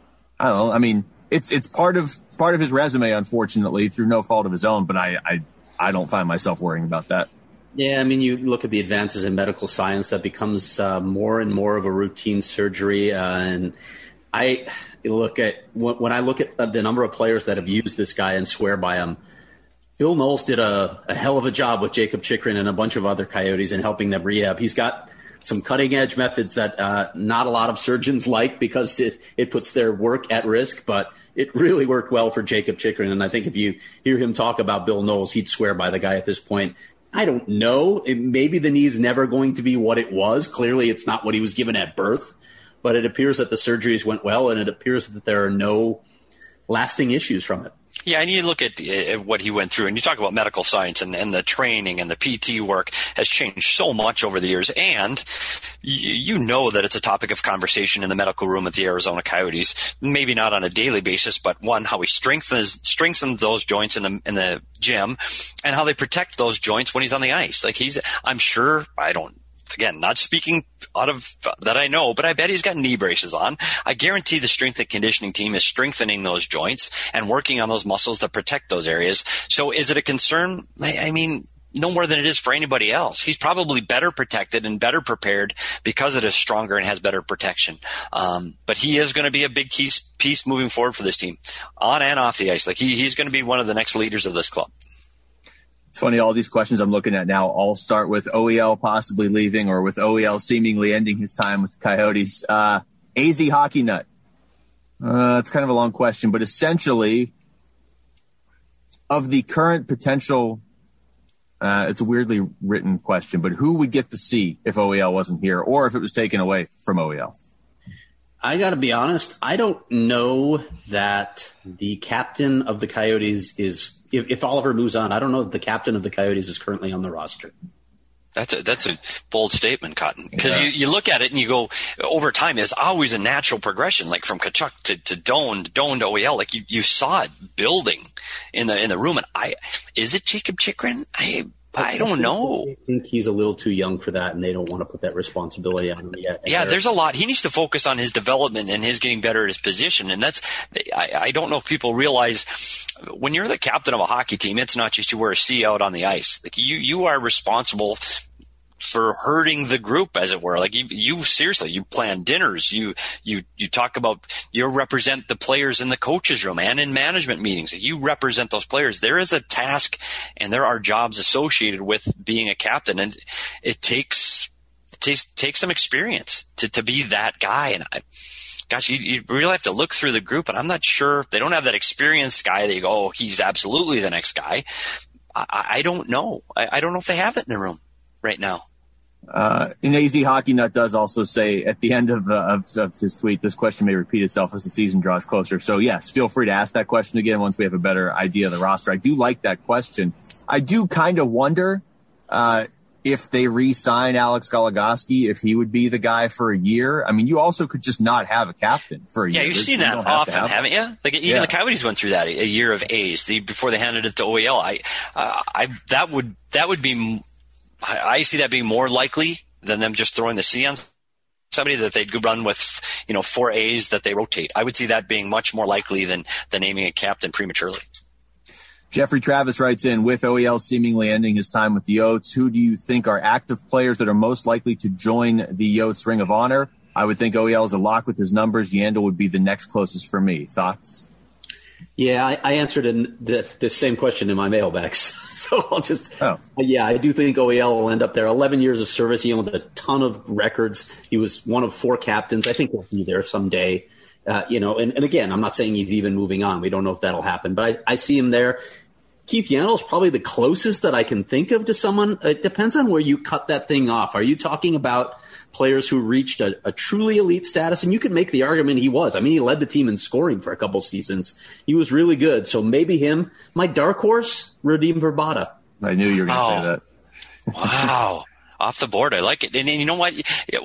I don't know. I mean, it's it's part of it's part of his resume, unfortunately, through no fault of his own. But I I, I don't find myself worrying about that. Yeah, I mean, you look at the advances in medical science, that becomes uh, more and more of a routine surgery. Uh, and I look at when I look at the number of players that have used this guy and swear by him. Bill Knowles did a, a hell of a job with Jacob Chychrun and a bunch of other Coyotes in helping them rehab. He's got some cutting edge methods that uh, not a lot of surgeons like because it, it puts their work at risk, but it really worked well for Jacob Chychrun. And I think if you hear him talk about Bill Knowles, he'd swear by the guy at this point. I don't know. It, maybe the knee's never going to be what it was. Clearly, it's not what he was given at birth. But it appears that the surgeries went well, and it appears that there are no lasting issues from it. Yeah, and you look at uh, what he went through, and you talk about medical science and, and the training and the P T work has changed so much over the years. And you, you know that it's a topic of conversation in the medical room at the Arizona Coyotes. Maybe not on a daily basis, but one, how he strengthens strengthens those joints in the in the gym, and how they protect those joints when he's on the ice. Like he's, I'm sure, I don't. Again, not speaking out of that I know, but I bet he's got knee braces on. I guarantee the strength and conditioning team is strengthening those joints and working on those muscles that protect those areas. So is it a concern? I mean, no more than it is for anybody else. He's probably better protected and better prepared because it is stronger and has better protection. Um, but he is going to be a big piece, piece moving forward for this team on and off the ice. Like he, he's going to be one of the next leaders of this club. It's funny, all these questions I'm looking at now all start with O E L possibly leaving or with O E L seemingly ending his time with the Coyotes. Uh, A Z Hockey Nut. Uh, it's kind of a long question, but essentially, of the current potential, uh, it's a weirdly written question, but who would get the C if O E L wasn't here or if it was taken away from O E L? I got to be honest. I don't know that the captain of the Coyotes is, if, if Oliver moves on, I don't know that the captain of the Coyotes is currently on the roster. That's a, that's a bold statement, Cotton, because yeah. you, you look at it and you go, over time, there's always a natural progression, like from Tkachuk to, to Doan, to Doan to O E L. Like you, you saw it building in the, in the room. And I, is it Jacob Chychrun? I, I don't know. I think he's a little too young for that, and they don't want to put that responsibility on him yet. Yeah, there's a lot. He needs to focus on his development and his getting better at his position. And that's, I, I don't know if people realize when you're the captain of a hockey team, it's not just you wear a C out on the ice. Like you, you are responsible for hurting the group, as it were. Like you, you seriously, you plan dinners, you, you, you talk about, you represent the players in the coaches room and in management meetings. You represent those players. There is a task and there are jobs associated with being a captain, and it takes, it takes, takes some experience to, to be that guy. And I, gosh, you, you really have to look through the group, and I'm not sure they don't have that experienced guy that you go, oh, he's absolutely the next guy. I, I don't know. I, I don't know if they have it in the room right now. Uh, and A Z Hockey Nut does also say at the end of, uh, of, of his tweet, this question may repeat itself as the season draws closer. So yes, feel free to ask that question again once we have a better idea of the roster. I do like that question. I do kind of wonder, uh, if they re-sign Alex Goligoski, if he would be the guy for a year. I mean, you also could just not have a captain for a yeah, year. Yeah, you've There's, seen that you often, have haven't you? Like even yeah. the Coyotes went through that, a, a year of A's the, before they handed it to O E L. I, uh, I that would that would be. I, I see that being more likely than them just throwing the C on somebody, that they'd run with, you know, four A's that they rotate. I would see that being much more likely than than naming a captain prematurely. Jeffrey Travis writes in, with O E L seemingly ending his time with the Yotes, who do you think are active players that are most likely to join the Yotes Ring of Honor? I would think O E L is a lock with his numbers. Yandel would be the next closest for me. Thoughts? Yeah, I, I answered in the, the same question in my mailbags. So I'll just, oh. yeah, I do think O E L will end up there. eleven years of service. He owns a ton of records. He was one of four captains. I think he'll be there someday. Uh, you know, and, and again, I'm not saying he's even moving on. We don't know if that'll happen, but I, I see him there. Keith Yandel is probably the closest that I can think of to someone. It depends on where you cut that thing off. Are you talking about players who reached a, a truly elite status? And you can make the argument he was. I mean, he led the team in scoring for a couple seasons. He was really good. So maybe him. My dark horse, Radim Vrbata. I knew you were going to wow. say that. Wow. Off the board. I like it. And, and you know what?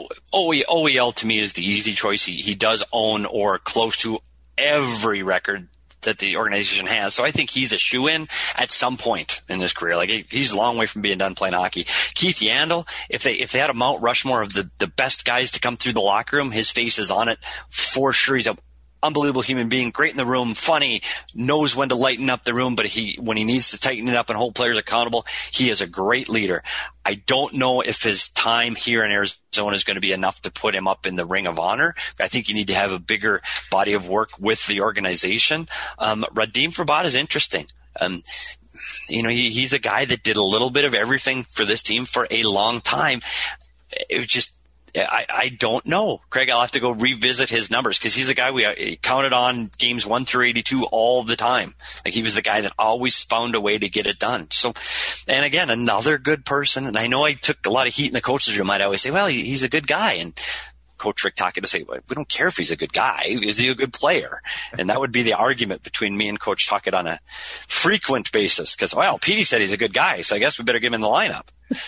O E L to me is the easy choice. He, he does own or close to every record that the organization has. So I think he's a shoo-in at some point in his career. Like he's a long way from being done playing hockey. Keith Yandel, if they if they had a Mount Rushmore of the, the best guys to come through the locker room, his face is on it for sure. He's a unbelievable human being, great in the room, funny, knows when to lighten up the room, but he when he needs to tighten it up and hold players accountable, he is a great leader. I don't know if his time here in Arizona is going to be enough to put him up in the Ring of Honor. I think you need to have a bigger body of work with the organization. Um, Radim Vrbata is interesting. Um, you know, he, he's a guy that did a little bit of everything for this team for a long time. It was just, I, I don't know. Craig, I'll have to go revisit his numbers because he's a guy we counted on games one through eighty-two all the time. Like he was the guy that always found a way to get it done. So, and again, another good person. And I know I took a lot of heat in the coaches room. I'd always say, well, he, he's a good guy. And Coach Rick Tocchet to say, well, we don't care if he's a good guy. Is he a good player? And that would be the argument between me and Coach Tocchet on a frequent basis. Because, well, Petey said he's a good guy, so I guess we better get him in the lineup.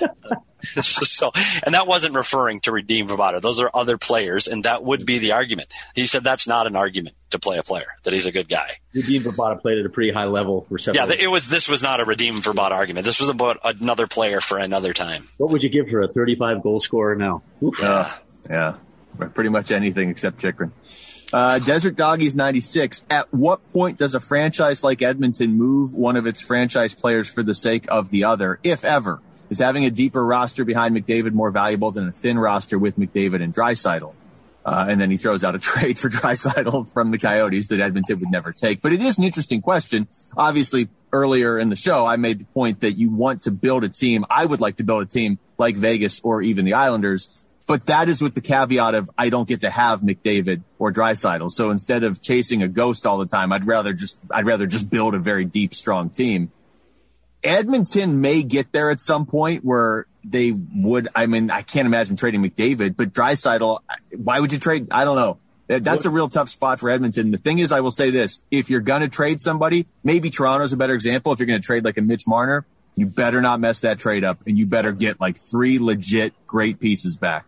So, and that wasn't referring to Radim Vrbata. Those are other players, and that would be the argument. He said that's not an argument to play a player, that he's a good guy. Radim Vrbata played at a pretty high level for several Yeah, it was. This was not a Radim Vrbata argument. This was about another player for another time. What would you give for a thirty-five goal scorer now? Uh, yeah, pretty much anything except Chychrun. Uh, Desert Doggies ninety-six. At what point does a franchise like Edmonton move one of its franchise players for the sake of the other, if ever? Is having a deeper roster behind McDavid more valuable than a thin roster with McDavid and Draisaitl? Uh, and then he throws out a trade for Draisaitl from the Coyotes that Edmonton would never take. But it is an interesting question. Obviously, earlier in the show, I made the point that you want to build a team. I would like to build a team like Vegas or even the Islanders. But that is with the caveat of I don't get to have McDavid or Draisaitl. So instead of chasing a ghost all the time, I'd rather just I'd rather just build a very deep, strong team. Edmonton may get there at some point where they would. I mean, I can't imagine trading McDavid, but Draisaitl, why would you trade? I don't know. That's a real tough spot for Edmonton. The thing is, I will say this. If you're going to trade somebody, maybe Toronto's a better example. If you're going to trade like a Mitch Marner, you better not mess that trade up, and you better get like three legit great pieces back.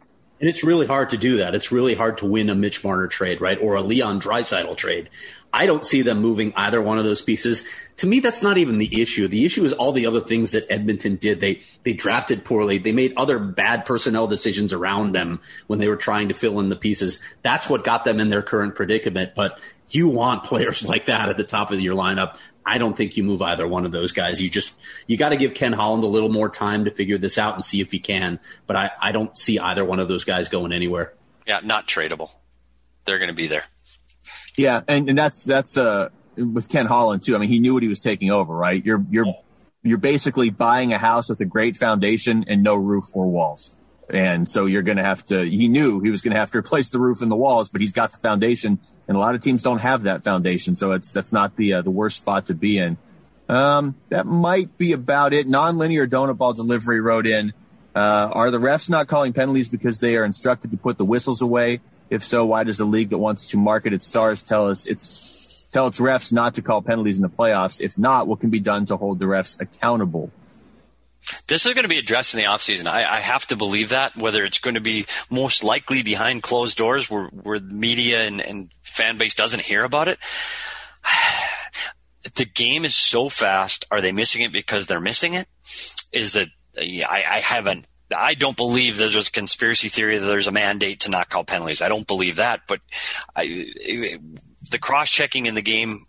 And it's really hard to do that. It's really hard to win a Mitch Marner trade, right? Or a Leon Draisaitl trade. I don't see them moving either one of those pieces. To me, that's not even the issue. The issue is all the other things that Edmonton did. They they drafted poorly. They made other bad personnel decisions around them when they were trying to fill in the pieces. That's what got them in their current predicament. But you want players like that at the top of your lineup. I don't think you move either one of those guys. You just you got to give Ken Holland a little more time to figure this out and see if he can. But I, I don't see either one of those guys going anywhere. Yeah, not tradable. They're going to be there. Yeah, and, and that's that's uh with Ken Holland too. I mean, he knew what he was taking over, right? You're you're you're basically buying a house with a great foundation and no roof or walls. And so you're going to have to, he knew he was going to have to replace the roof and the walls, but he's got the foundation, and a lot of teams don't have that foundation. So it's, that's not the, uh, the worst spot to be in. Um, that might be about it. Nonlinear donut ball delivery wrote in, uh, are the refs not calling penalties because they are instructed to put the whistles away? If so, why does a league that wants to market its stars tell us it's, tell its refs not to call penalties in the playoffs? If not, what can be done to hold the refs accountable? This is going to be addressed in the offseason. I, I have to believe that, whether it's going to be most likely behind closed doors where, where the media and, and fan base doesn't hear about it. The game is so fast. Are they missing it because they're missing it? Is it, I, I haven't, I don't believe there's a conspiracy theory that there's a mandate to not call penalties. I don't believe that, but I, the cross-checking in the game,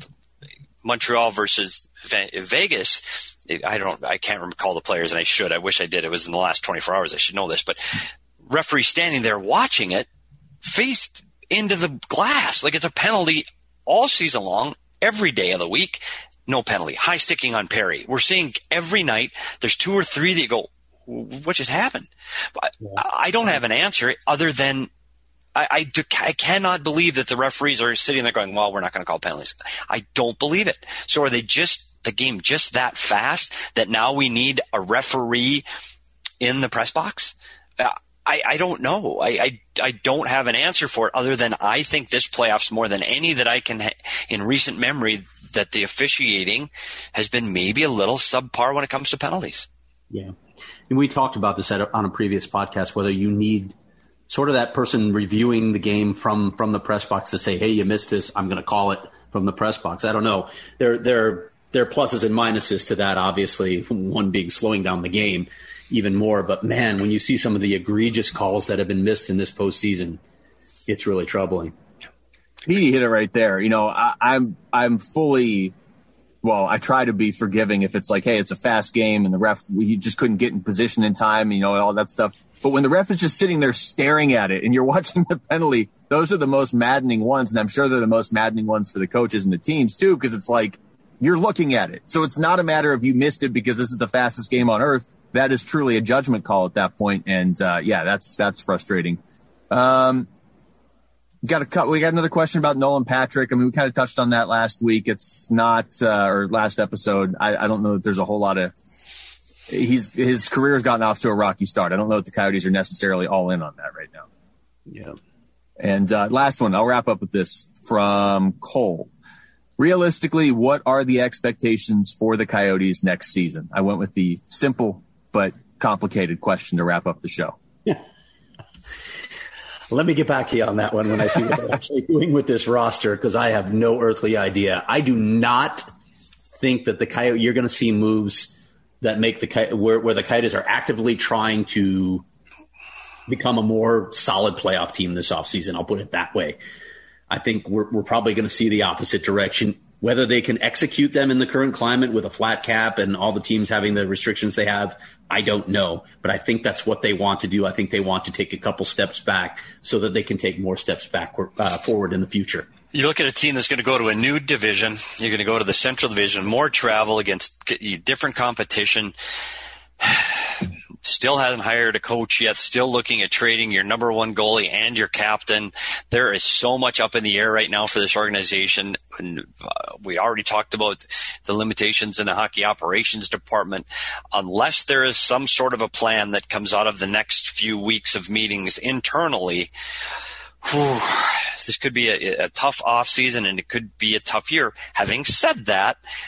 Montreal versus Vegas, I don't, I can't recall the players, and I should. I wish I did. It was in the last twenty-four hours. I should know this, but referee standing there watching it, faced into the glass like it's a penalty all season long, every day of the week. No penalty. High sticking on Perry. We're seeing every night. There's two or three that you go, what just happened? I, I don't have an answer other than I, I, do, I cannot believe that the referees are sitting there going, well, we're not going to call penalties. I don't believe it. So are they just the game just that fast that now we need a referee in the press box? Uh, I, I don't know. I, I, I don't have an answer for it other than I think this playoffs more than any that I can ha- in recent memory that the officiating has been maybe a little subpar when it comes to penalties. Yeah. And we talked about this at, on a previous podcast, whether you need sort of that person reviewing the game from, from the press box to say, hey, you missed this. I'm going to call it from the press box. I don't know. There, there, there are pluses and minuses to that, obviously, one being slowing down the game even more. But, man, when you see some of the egregious calls that have been missed in this postseason, it's really troubling. He hit it right there. You know, I, I'm I'm fully – well, I try to be forgiving if it's like, hey, it's a fast game and the ref – you just couldn't get in position in time, you know, all that stuff. But when the ref is just sitting there staring at it and you're watching the penalty, those are the most maddening ones. And I'm sure they're the most maddening ones for the coaches and the teams, too, because it's like – you're looking at it. So it's not a matter of you missed it because this is the fastest game on earth. That is truly a judgment call at that point. And, uh, yeah, that's, that's frustrating. Um, got a cut. We got another question about Nolan Patrick. I mean, we kind of touched on that last week. It's not, uh, or last episode. I, I don't know that there's a whole lot of, he's, his career has gotten off to a rocky start. I don't know that the Coyotes are necessarily all in on that right now. Yeah. And, uh, last one, I'll wrap up with this from Cole. Realistically, what are the expectations for the Coyotes next season? I went with the simple but complicated question to wrap up the show. Yeah. Let me get back to you on that one when I see what they're actually doing with this roster, because I have no earthly idea. I do not think that the Coyotes, you're going to see moves that make the where, where the Coyotes are actively trying to become a more solid playoff team this offseason. I'll put it that way. I think we're, we're probably going to see the opposite direction. Whether they can execute them in the current climate with a flat cap and all the teams having the restrictions they have, I don't know. But I think that's what they want to do. I think they want to take a couple steps back so that they can take more steps back uh, forward in the future. You look at a team that's going to go to a new division. You're going to go to the Central Division, more travel against different competition. Still hasn't hired a coach yet, still looking at trading your number one goalie and your captain. There is so much up in the air right now for this organization. And, uh, we already talked about the limitations in the hockey operations department. Unless there is some sort of a plan that comes out of the next few weeks of meetings internally, whew, this could be a, a tough offseason and it could be a tough year. Having said that,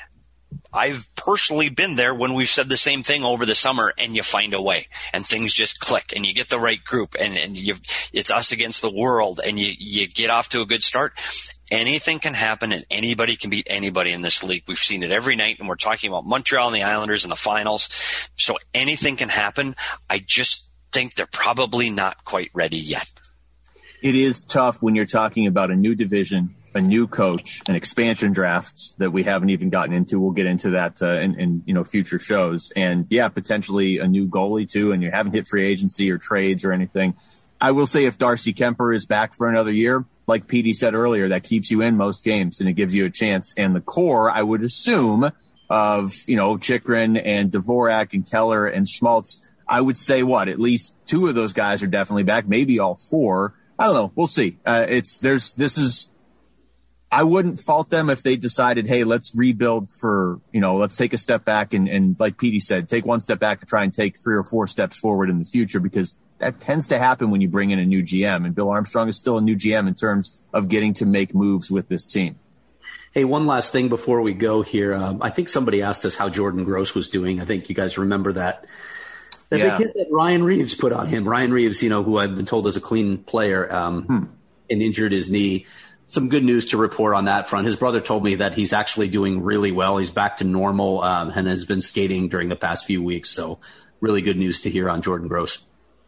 I've personally been there when we've said the same thing over the summer, and you find a way and things just click and you get the right group and, and you, it's us against the world and you, you get off to a good start. Anything can happen and anybody can beat anybody in this league. We've seen it every night, and we're talking about Montreal and the Islanders in the finals. So anything can happen. I just think they're probably not quite ready yet. It is tough when you're talking about a new division, a new coach, and expansion drafts that we haven't even gotten into. We'll get into that uh, in, in you know future shows. And yeah, potentially a new goalie too, and you haven't hit free agency or trades or anything. I will say if Darcy Kemper is back for another year, like Petey said earlier, that keeps you in most games and it gives you a chance. And the core, I would assume, of you know Chychrun and Dvorak and Keller and Schmaltz, I would say what at least two of those guys are definitely back, maybe all four. I don't know. We'll see. Uh, it's there's this is. I wouldn't fault them if they decided, hey, let's rebuild for, you know, let's take a step back and, and like Petey said, take one step back and try and take three or four steps forward in the future, because that tends to happen when you bring in a new G M. And Bill Armstrong is still a new G M in terms of getting to make moves with this team. Hey, one last thing before we go here. Um, I think somebody asked us how Jordan Gross was doing. I think you guys remember that. That yeah. big hit that Ryan Reeves put on him. Ryan Reeves, you know, who I've been told is a clean player, um, hmm. and injured his knee. Some good news to report on that front. His brother told me that he's actually doing really well. He's back to normal um, and has been skating during the past few weeks. So really good news to hear on Jordan Gross.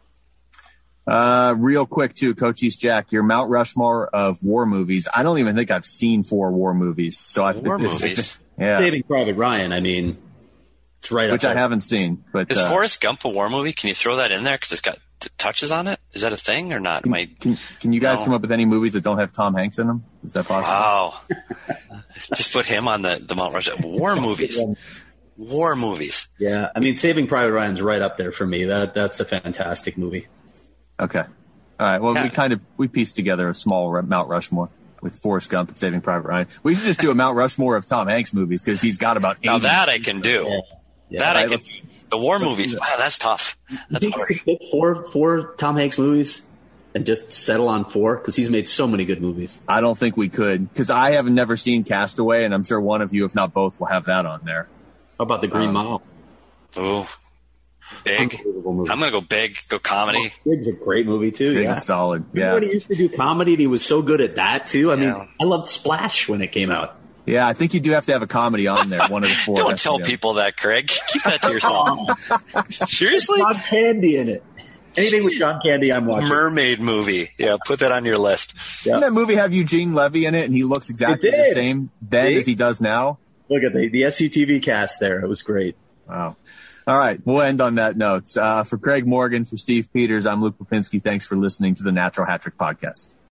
Uh, real quick, too, Coach East Jack, your Mount Rushmore of war movies. I don't even think I've seen four war movies. So I War think movies? Yeah. Saving Private Ryan, I mean, it's right Which up there. I haven't seen. But Is uh, Forrest Gump a war movie? Can you throw that in there? Because it's got t- touches on it. Is that a thing or not? Am I, Can, can you guys No. come up with any movies that don't have Tom Hanks in them? Is that possible? wow. Just put him on the, the Mount Rushmore. War movies. War movies. Yeah, I mean, Saving Private Ryan's right up there for me. That That's a fantastic movie. Okay. All right. Well, Yeah. we kind of we pieced together a small Mount Rushmore with Forrest Gump and Saving Private Ryan. We should just do a Mount Rushmore of Tom Hanks movies because he's got about eighty. Now that I can do. Yeah. Yeah, that I right, can let's- do. The war movies. Wow, that's tough. You That's think you hard. could pick four, four Tom Hanks movies and just settle on four? Because he's made so many good movies. I don't think we could because I have never seen Castaway, and I'm sure one of you, if not both, will have that on there. How about The Green Um, Mile? Ooh. Big. Unbelievable movie. I'm going to go big, go comedy. Big's a great movie, too. Big Yeah. is solid. Yeah. Everybody used to do comedy, and he was so good at that, too. I mean, Yeah. I loved Splash when it came out. Yeah, I think you do have to have a comedy on there. One of the four. Don't has to tell go. people that, Craig. Keep that to yourself. Seriously? John Candy in it. Anything with John Candy, I'm watching. Mermaid movie. Yeah, put that on your list. Didn't that movie have Eugene Levy in it, and he looks exactly It the did. same then See? as he does now? Look at the, the S C T V cast there. It was great. Wow. All right, we'll end on that note. Uh, for Craig Morgan, for Steve Peters, I'm Luke Popinski. Thanks for listening to the Natural Hat Trick Podcast.